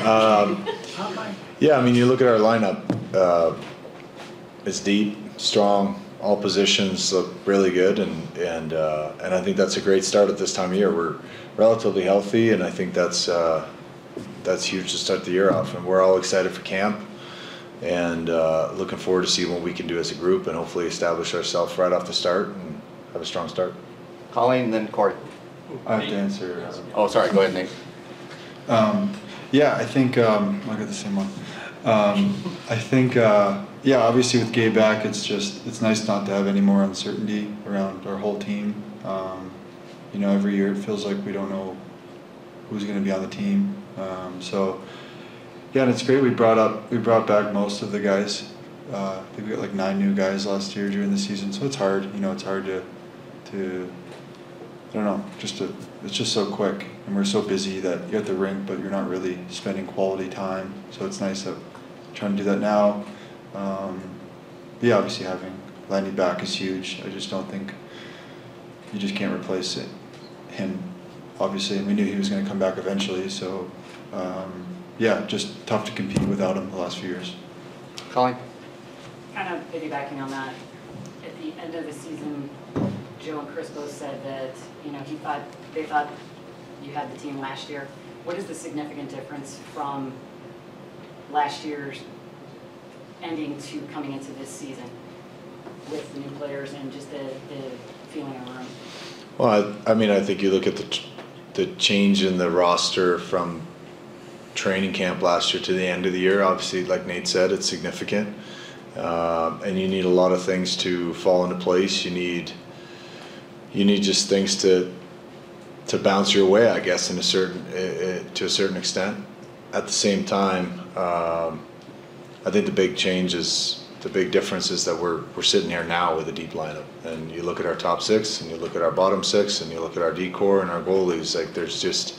I mean, you look at our lineup. It's deep, strong. All positions look really good, and I think that's a great start at this time of year. We're relatively healthy, and I think that's huge to start the year off. And we're all excited for camp, and looking forward to see what we can do as a group, and hopefully establish ourselves right off the start and have a strong start. Colleen, then Corey. I have to answer. Oh, sorry. Go ahead, Nate. I think I got the same one. I think obviously with Gabe back, it's nice not to have any more uncertainty around our whole team. Every year it feels like we don't know who's going to be on the team. And it's great. We brought back most of the guys. I think we got like 9 new guys last year during the season. So it's hard. It's hard to I don't know. It's just so quick, and we're so busy that you're at the rink, but you're not really spending quality time. So it's nice that we're trying to do that now. Obviously having Landy back is huge. I just don't think you just can't replace him. Obviously, and we knew he was going to come back eventually. So just tough to compete without him the last few years. Colleen? Kind of piggybacking on that, at the end of the season, Joe and Chris both said that, they thought you had the team last year. What is the significant difference from last year's ending to coming into this season with the new players and just the feeling of the room? Well, I think you look at the change in the roster from training camp last year to the end of the year. Obviously, like Nate said, it's significant. And you need a lot of things to fall into place. You need just things to bounce your way, I guess, to a certain extent. At the same time, I think the big difference is that we're sitting here now with a deep lineup. And you look at our top 6, and you look at our bottom 6, and you look at our D-core and our goalies. Like there's just,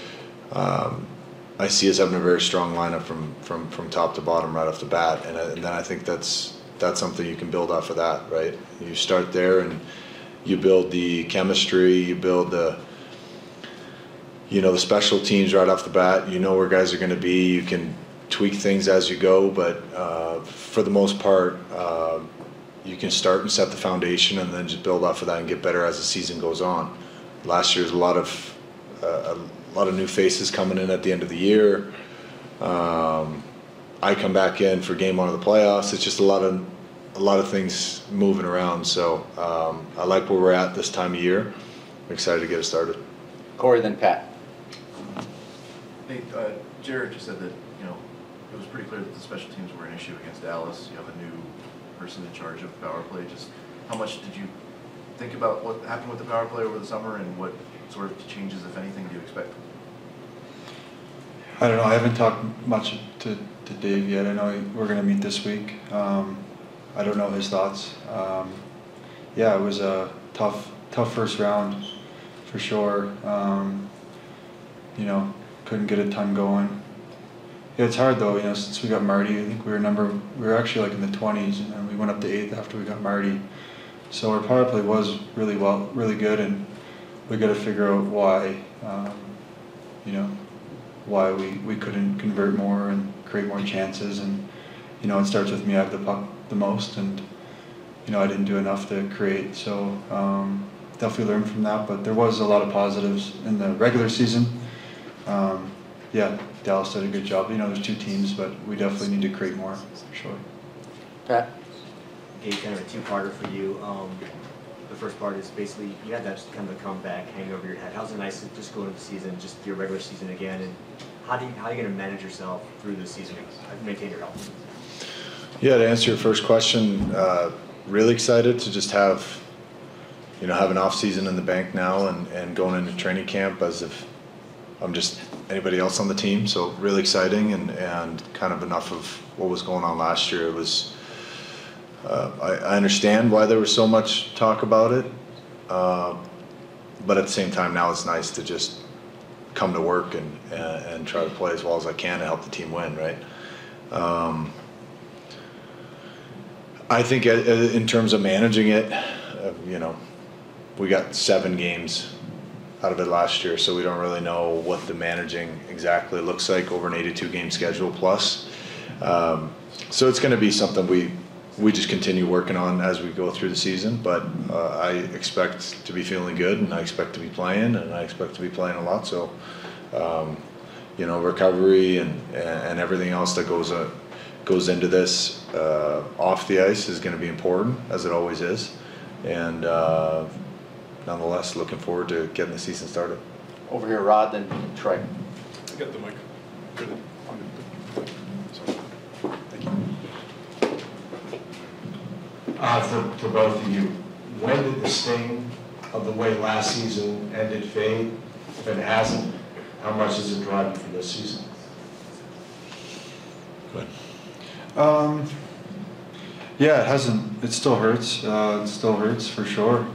I see us having a very strong lineup from top to bottom right off the bat. And then I think that's something you can build off of that, right? You start there and you build the chemistry, you build the the special teams right off the bat, you know where guys are going to be. You can tweak things as you go, but for the most part, you can start and set the foundation and then just build off of that and get better as the season goes on. Last year was a lot of new faces coming in at the end of the year. I come back in for game one of the playoffs. It's just a lot of things moving around. So I like where we're at this time of year. I'm excited to get it started. Corey, then Pat. Hey, Jared just said that, it was pretty clear that the special teams were an issue against Dallas. You have a new person in charge of power play. Just how much did you think about what happened with the power play over the summer, and what sort of changes, if anything, do you expect? I don't know. I haven't talked much to Dave yet. I know we're going to meet this week. I don't know his thoughts. Yeah, it was a tough first round for sure. Couldn't get a ton going. Yeah, it's hard though. Since we got Marty, I think we were actually like in the 20s, and then we went up to 8th after we got Marty. So our power play was really good, and we got to figure out why. Why we couldn't convert more and create more chances, and it starts with me. I have the puck the most, and I didn't do enough to create. So definitely learned from that, but there was a lot of positives in the regular season. Yeah, Dallas did a good job. There's two teams, but we definitely need to create more, for sure. Pat? Gabe, kind of a two-parter for you. The first part is basically you had that kind of a comeback hanging over your head. How's it nice to just go into the season, just your regular season again, and how are you going to manage yourself through the season and maintain your health? Yeah, to answer your first question, really excited to just have an off season in the bank now and going into training camp as if I'm just anybody else on the team. So really exciting and kind of enough of what was going on last year. It was. I understand why there was so much talk about it, but at the same time now it's nice to just come to work and try to play as well as I can to help the team win, right? I think in terms of managing it, we got 7 games out of it last year, so we don't really know what the managing exactly looks like over an 82-game schedule plus. So it's going to be something we just continue working on as we go through the season, but I expect to be feeling good, and I expect to be playing, and I expect to be playing a lot. So, recovery and everything else that goes into this off the ice is going to be important, as it always is. And nonetheless, looking forward to getting the season started. Over here, Rod, then Troy. I got the mic. Good. Sorry. Thank you. For both of you, when did the sting of the way last season ended fade? If it hasn't, how much does it drive you for this season? Go ahead. Yeah, it hasn't. It still hurts. It still hurts for sure.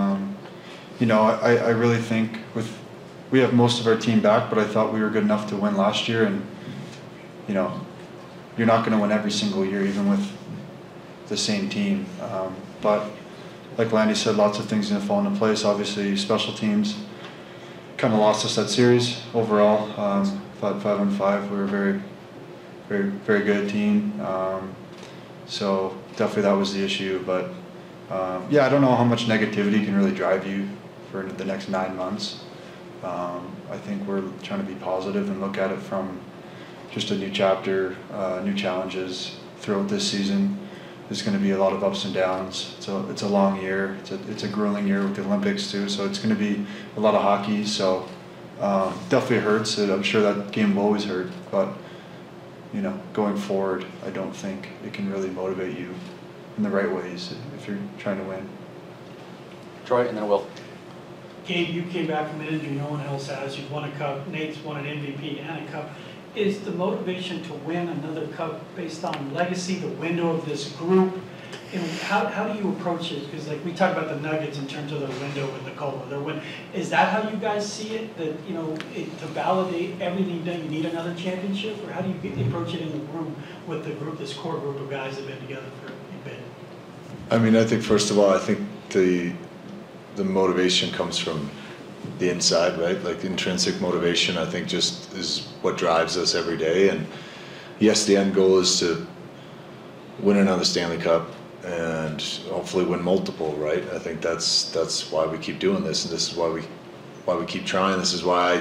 I really think we have most of our team back, but I thought we were good enough to win last year, and you're not going to win every single year, even with the same team. But like Landy said, lots of things going to fall into place. Obviously, special teams kind of lost us that series overall. 5-on-5, we were a very, very, very good team. So definitely that was the issue. But I don't know how much negativity can really drive you for the next 9 months. I think we're trying to be positive and look at it from just a new chapter, new challenges throughout this season. There's going to be a lot of ups and downs. It's a long year. It's a grueling year with the Olympics too. So it's going to be a lot of hockey. So definitely hurts. I'm sure that game will always hurt. But going forward, I don't think it can really motivate you in the right ways if you're trying to win. Troy, and then Will. Gabe, you came back from an injury no one else has. You've won a cup. Nate's won an MVP and a cup. Is the motivation to win another cup based on legacy, the window of this group? And how do you approach it? Because we talk about the Nuggets in terms of their window and the Copa, their win. Is that how you guys see it? That to validate everything done, you need another championship, or how do you approach it in the room with the group, this core group of guys that have been together for a bit? I mean, I think first of all, I think the motivation comes from the inside, right? Like intrinsic motivation, I think, just is what drives us every day. And yes, the end goal is to win another Stanley Cup and hopefully win multiple, right? I think that's why we keep doing this, and this is why we keep trying. This is why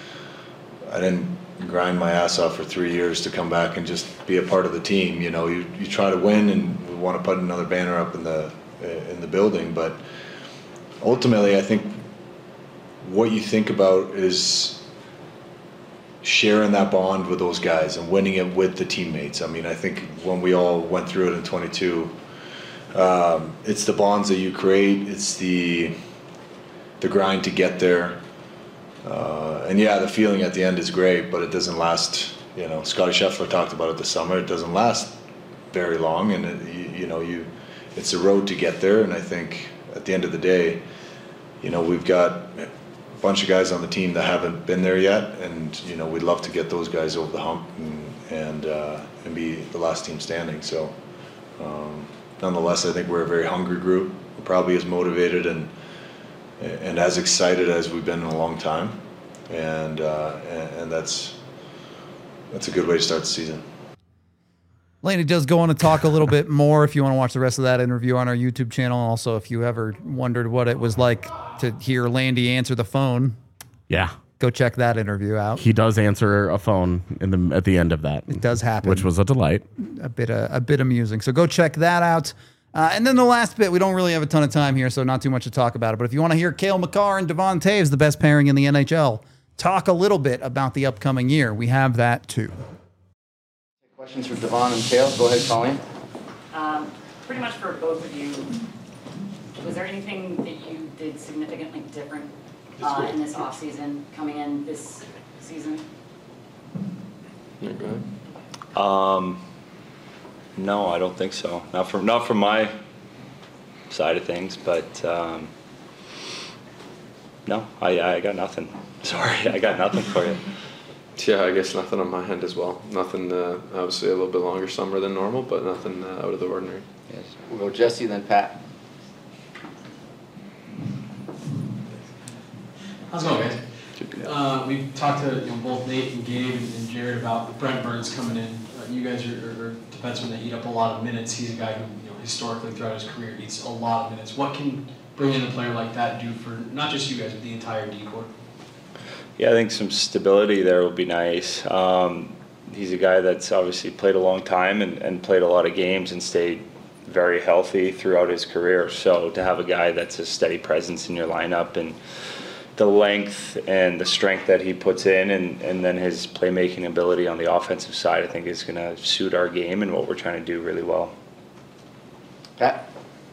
I didn't grind my ass off for 3 years to come back and just be a part of the team. You know, you try to win, and we want to put another banner up in the building, but ultimately, I think what you think about is sharing that bond with those guys and winning it with the teammates. I mean, I think when we all went through it in 22, it's the bonds that you create, it's the grind to get there. And yeah, the feeling at the end is great, but it doesn't last. You know, Scotty Scheffler talked about it this summer. It doesn't last very long, and it's a road to get there. And I think at the end of the day, you know, we've got a bunch of guys on the team that haven't been there yet, and you know, we'd love to get those guys over the hump and be the last team standing. So, nonetheless, I think we're a very hungry group. We're probably as motivated and as excited as we've been in a long time, and that's a good way to start the season. Landy does go on to talk a little bit more if you want to watch the rest of that interview on our YouTube channel. Also, if you ever wondered what it was like to hear Landy answer the phone, yeah, go check that interview out. He does answer a phone at the end of that. It does happen, which was a delight. A bit amusing. So go check that out. And then the last bit, we don't really have a ton of time here, so not too much to talk about it. But if you want to hear Cale Makar and Devon Toews, the best pairing in the NHL, talk a little bit about the upcoming year, we have that too. Questions for Devon and Cale? Go ahead, Colleen. Pretty much for both of you, was there anything that you did significantly different in this offseason coming in this season? Yeah, go ahead. No, I don't think so. Not from my side of things, but no, I got nothing. Sorry, I got nothing for you. Yeah, I guess nothing on my end as well. Nothing, obviously a little bit longer summer than normal, but nothing out of the ordinary. Yes. We'll go Jesse, then Pat. How's it going, guys? We've talked to both Nate and Gabe and Jared about Brent Burns coming in. You guys are defensemen that eat up a lot of minutes. He's a guy who historically throughout his career eats a lot of minutes. What can bringing in a player like that do for not just you guys, but the entire D-corps? Yeah, I think some stability there would be nice. He's a guy that's obviously played a long time and played a lot of games and stayed very healthy throughout his career. So to have a guy that's a steady presence in your lineup and the length and the strength that he puts in and then his playmaking ability on the offensive side, I think is going to suit our game and what we're trying to do really well. Pat?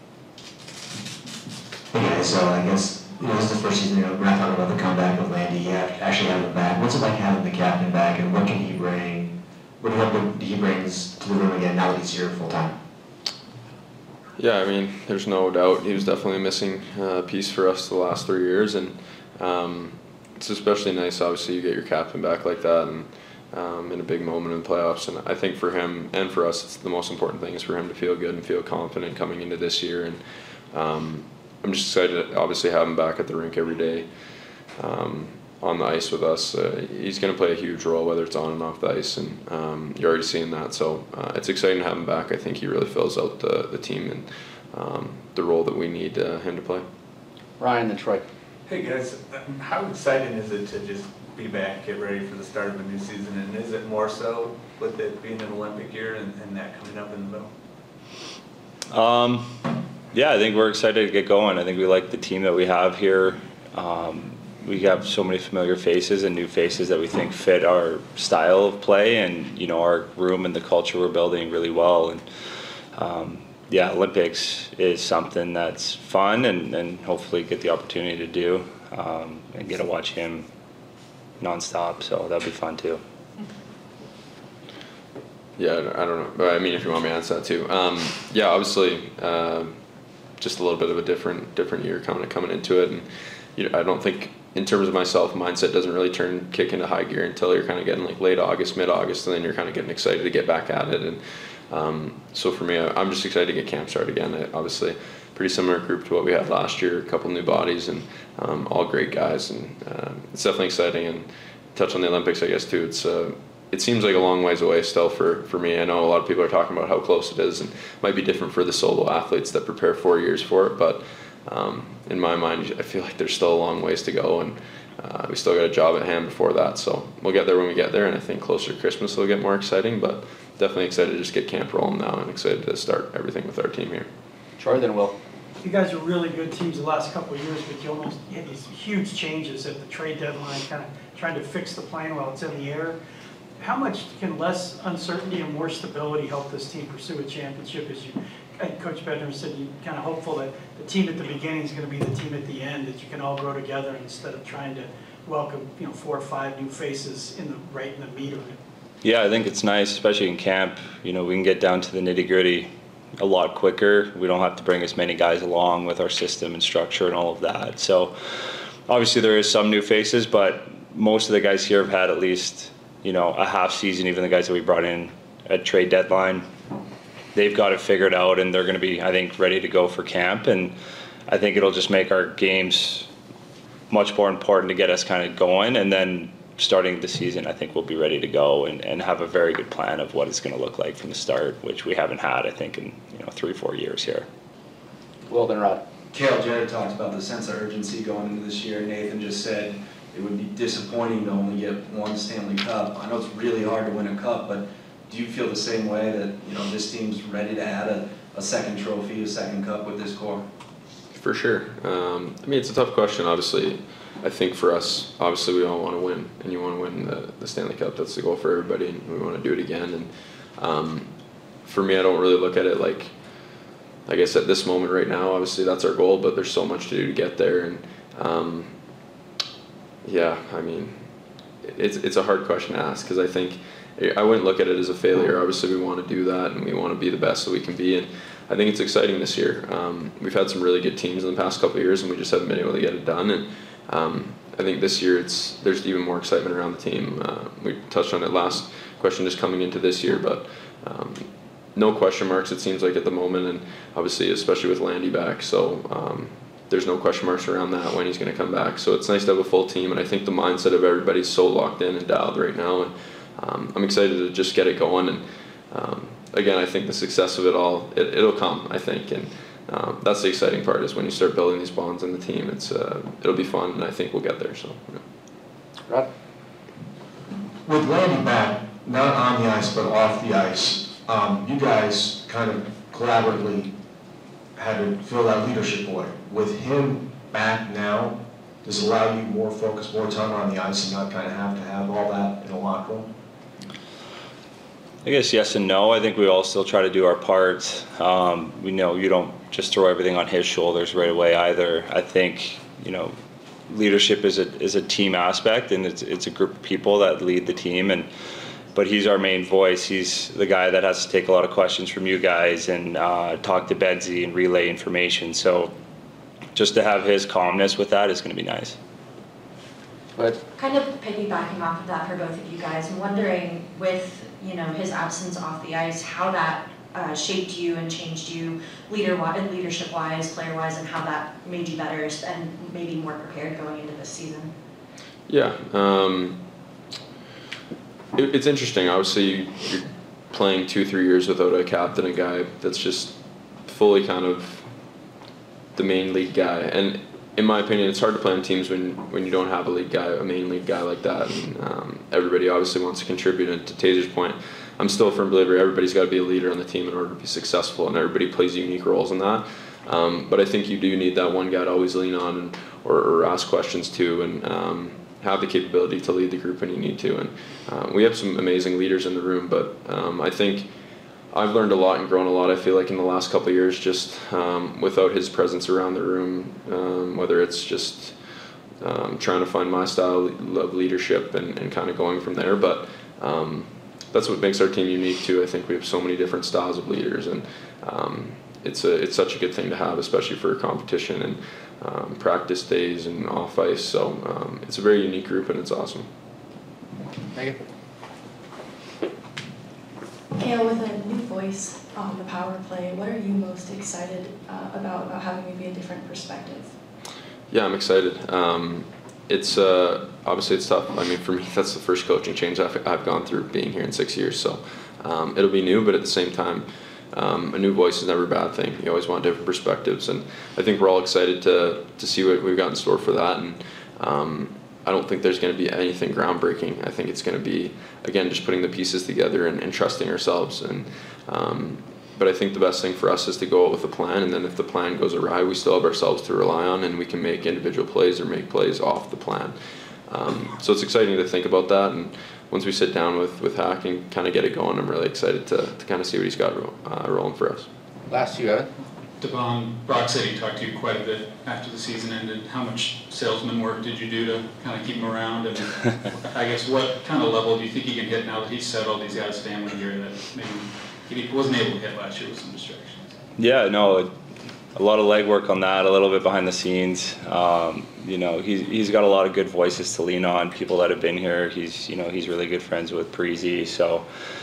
Okay, so I guess this is the first season, we're not talking about the comeback with Landy. You actually have him back. What's it like having the captain back, and what can he bring? What he brings to the room again now that he's here full time? Yeah, I mean, there's no doubt he was definitely a missing piece for us the last 3 years, and it's especially nice, obviously, you get your captain back like that, and in a big moment in the playoffs. And I think for him and for us, it's the most important thing is for him to feel good and feel confident coming into this year. And I'm just excited to obviously have him back at the rink every day on the ice with us. He's going to play a huge role, whether it's on and off the ice, and you're already seeing that. So it's exciting to have him back. I think he really fills out the team and the role that we need him to play. Ryan and Troy. Hey guys, how exciting is it to just be back, get ready for the start of a new season, and is it more so with it being an Olympic year and that coming up in the middle? Yeah, I think we're excited to get going. I think we like the team that we have here. We have so many familiar faces and new faces that we think fit our style of play and our room and the culture we're building really well. And yeah, Olympics is something that's fun and hopefully get the opportunity to do and get to watch him nonstop. So that'll be fun too. Yeah, I don't know. I mean, if you want me to answer that too. Yeah, obviously, just a little bit of a different year coming into it, and I don't think in terms of myself, mindset doesn't really kick into high gear until you're kind of getting like late August, mid-August, and then you're kind of getting excited to get back at it. And so for me, I'm just excited to get camp started again. Obviously, pretty similar group to what we had last year, a couple new bodies, and all great guys, and it's definitely exciting. And touch on the Olympics, I guess, too. It seems like a long ways away still for me. I know a lot of people are talking about how close it is, and it might be different for the solo athletes that prepare 4 years for it, but in my mind, I feel like there's still a long ways to go, and we still got a job at hand before that, so we'll get there when we get there, and I think closer to Christmas it'll get more exciting, but definitely excited to just get camp rolling now and excited to start everything with our team here. Troy, then Will. You guys are really good teams the last couple of years, but you had these huge changes at the trade deadline, kind of trying to fix the plane while it's in the air. How much can less uncertainty and more stability help this team pursue a championship? As Coach Bednar said, you're kind of hopeful that the team at the beginning is going to be the team at the end, that you can all grow together instead of trying to welcome 4 or 5 new faces right in the meat of it. Yeah, I think it's nice, especially in camp. We can get down to the nitty-gritty a lot quicker. We don't have to bring as many guys along with our system and structure and all of that. So obviously there is some new faces, but most of the guys here have had at least a half season. Even the guys that we brought in at trade deadline, they've got it figured out, and they're going to be, I think, ready to go for camp. And I think it'll just make our games much more important to get us kind of going. And then starting the season, I think we'll be ready to go and have a very good plan of what it's going to look like from the start, which we haven't had, I think, in 3-4 years here. Well, then Rod. Cale, Jared talked about the sense of urgency going into this year. Nathan just said it would be disappointing to only get one Stanley Cup. I know it's really hard to win a cup, but do you feel the same way that this team's ready to add a second trophy, a second cup with this core? For sure. It's a tough question, obviously. I think for us, obviously, we all want to win, and you want to win the Stanley Cup. That's the goal for everybody, and we want to do it again. And for me, I don't really look at it like I guess at this moment right now, obviously that's our goal, but there's so much to do to get there. And it's a hard question to ask, because I think I wouldn't look at it as a failure. Obviously, we want to do that, and we want to be the best that we can be. And I think it's exciting this year. We've had some really good teams in the past couple of years, and we just haven't been able to get it done. And I think this year there's even more excitement around the team. We touched on it last question, just coming into this year, but no question marks, it seems like, at the moment, and obviously especially with Landy back, so there's no question marks around that when he's going to come back. So it's nice to have a full team, and I think the mindset of everybody's so locked in and dialed right now, and I'm excited to just get it going. And again, I think the success of it all, it'll come, I think, and that's the exciting part, is when you start building these bonds in the team. It'll be fun, and I think we'll get there. So, yeah. Rod? With Landy back, not on the ice but off the ice, you guys kind of collaboratively had to fill that leadership void. With him back now, does it allow you more focus, more time on the ice, and not kind of have to have all that in a locker room? I guess yes and no. I think we all still try to do our part. We know you don't just throw everything on his shoulders right away either. I think, leadership is a team aspect, and it's a group of people that lead the team, but he's our main voice. He's the guy that has to take a lot of questions from you guys and talk to Bedsy and relay information. So just to have his calmness with that is going to be nice. But kind of piggybacking off of that for both of you guys, I'm wondering, with his absence off the ice, how that shaped you and changed you leadership-wise, player-wise, and how that made you better and maybe more prepared going into this season. Yeah, it's interesting. Obviously, you're playing 2-3 years without a captain, a guy that's just fully kind of the main lead guy. And in my opinion, it's hard to play on teams when you don't have a lead guy, a main lead guy like that. And everybody obviously wants to contribute. And to Taser's point, I'm still a firm believer everybody's got to be a leader on the team in order to be successful, and everybody plays unique roles in that. But I think you do need that one guy to always lean on or ask questions to, and have the capability to lead the group when you need to. And we have some amazing leaders in the room, but I think I've learned a lot and grown a lot, I feel like, in the last couple of years, just without his presence around the room, whether it's just trying to find my style of leadership and kind of going from there. But that's what makes our team unique too. I think we have so many different styles of leaders, and it's such a good thing to have, especially for competition and practice days and off ice. So it's a very unique group, and it's awesome. Megan? Cale, with a new voice on the power play. What are you most excited about having maybe a different perspective? Yeah, I'm excited. It's obviously it's tough. I mean, for me, that's the first coaching change I've gone through being here in 6 years. So it'll be new, but at the same time, a new voice is never a bad thing. You always want different perspectives, and I think we're all excited to see what we've got in store for that. And I don't think there's going to be anything groundbreaking. I think it's going to be, again, just putting the pieces together and trusting ourselves. And but I think the best thing for us is to go out with a plan, and then if the plan goes awry, we still have ourselves to rely on, and we can make individual plays or make plays off the plan. So it's exciting to think about that, and once we sit down with Hack and kind of get it going, I'm really excited to kind of see what he's got rolling for us. Last you, Evan. Devon, Brock said he talked to you quite a bit after the season ended. How much salesman work did you do to kind of keep him around? And I guess what kind of level do you think he can hit now that he's settled, he's got his family here, that maybe he wasn't able to hit last year with some distractions? Yeah, no, a lot of legwork on that, a little bit behind the scenes. You know, he's got a lot of good voices to lean on, people that have been here. He's really good friends with Parise, so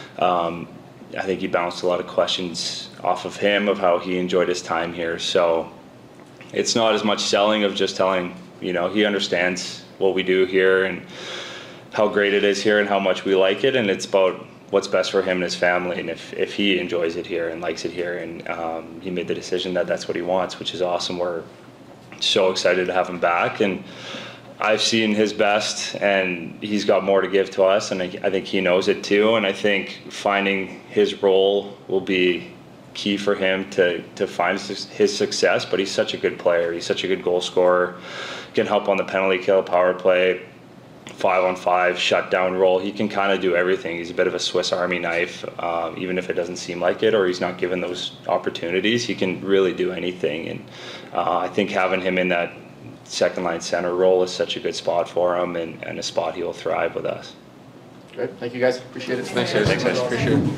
I think he bounced a lot of questions off of him of how he enjoyed his time here. So it's not as much selling of just telling, you know, he understands what we do here and how great it is here and how much we like it, and it's about what's best for him and his family, and if he enjoys it here and likes it here, and he made the decision that that's what he wants, which is awesome. We're so excited to have him back, and I've seen his best, and he's got more to give to us, and I think he knows it too, and I think finding his role will be key for him to find his success. But he's such a good player, he's such a good goal scorer, can help on the penalty kill, power play, 5-on-5 shutdown role. He can kind of do everything. He's a bit of a Swiss Army knife, even if it doesn't seem like it or he's not given those opportunities. He can really do anything, and I think having him in that second line center role is such a good spot for him, and a spot he will thrive with us. Great, thank you guys, appreciate it. Thanks guys. Appreciate it.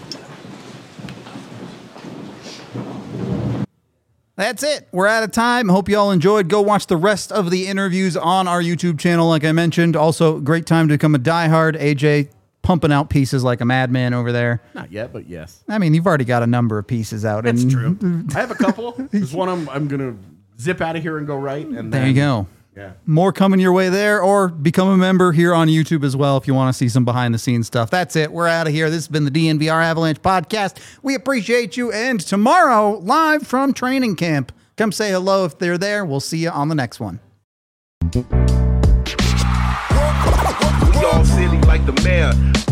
That's it. We're out of time. Hope you all enjoyed. Go watch the rest of the interviews on our YouTube channel, like I mentioned. Also, great time to become a diehard. AJ pumping out pieces like a madman over there. Not yet, but yes. I mean, you've already got a number of pieces out. That's true. I have a couple. There's one I'm going to zip out of here and go right. And there you go. Yeah. More coming your way there, or become a member here on YouTube as well if you want to see some behind the scenes stuff. That's it. We're out of here. This has been the DNVR Avalanche podcast. We appreciate you. And tomorrow, live from training camp, come say hello if they're there. We'll see you on the next one. We all silly like the mayor.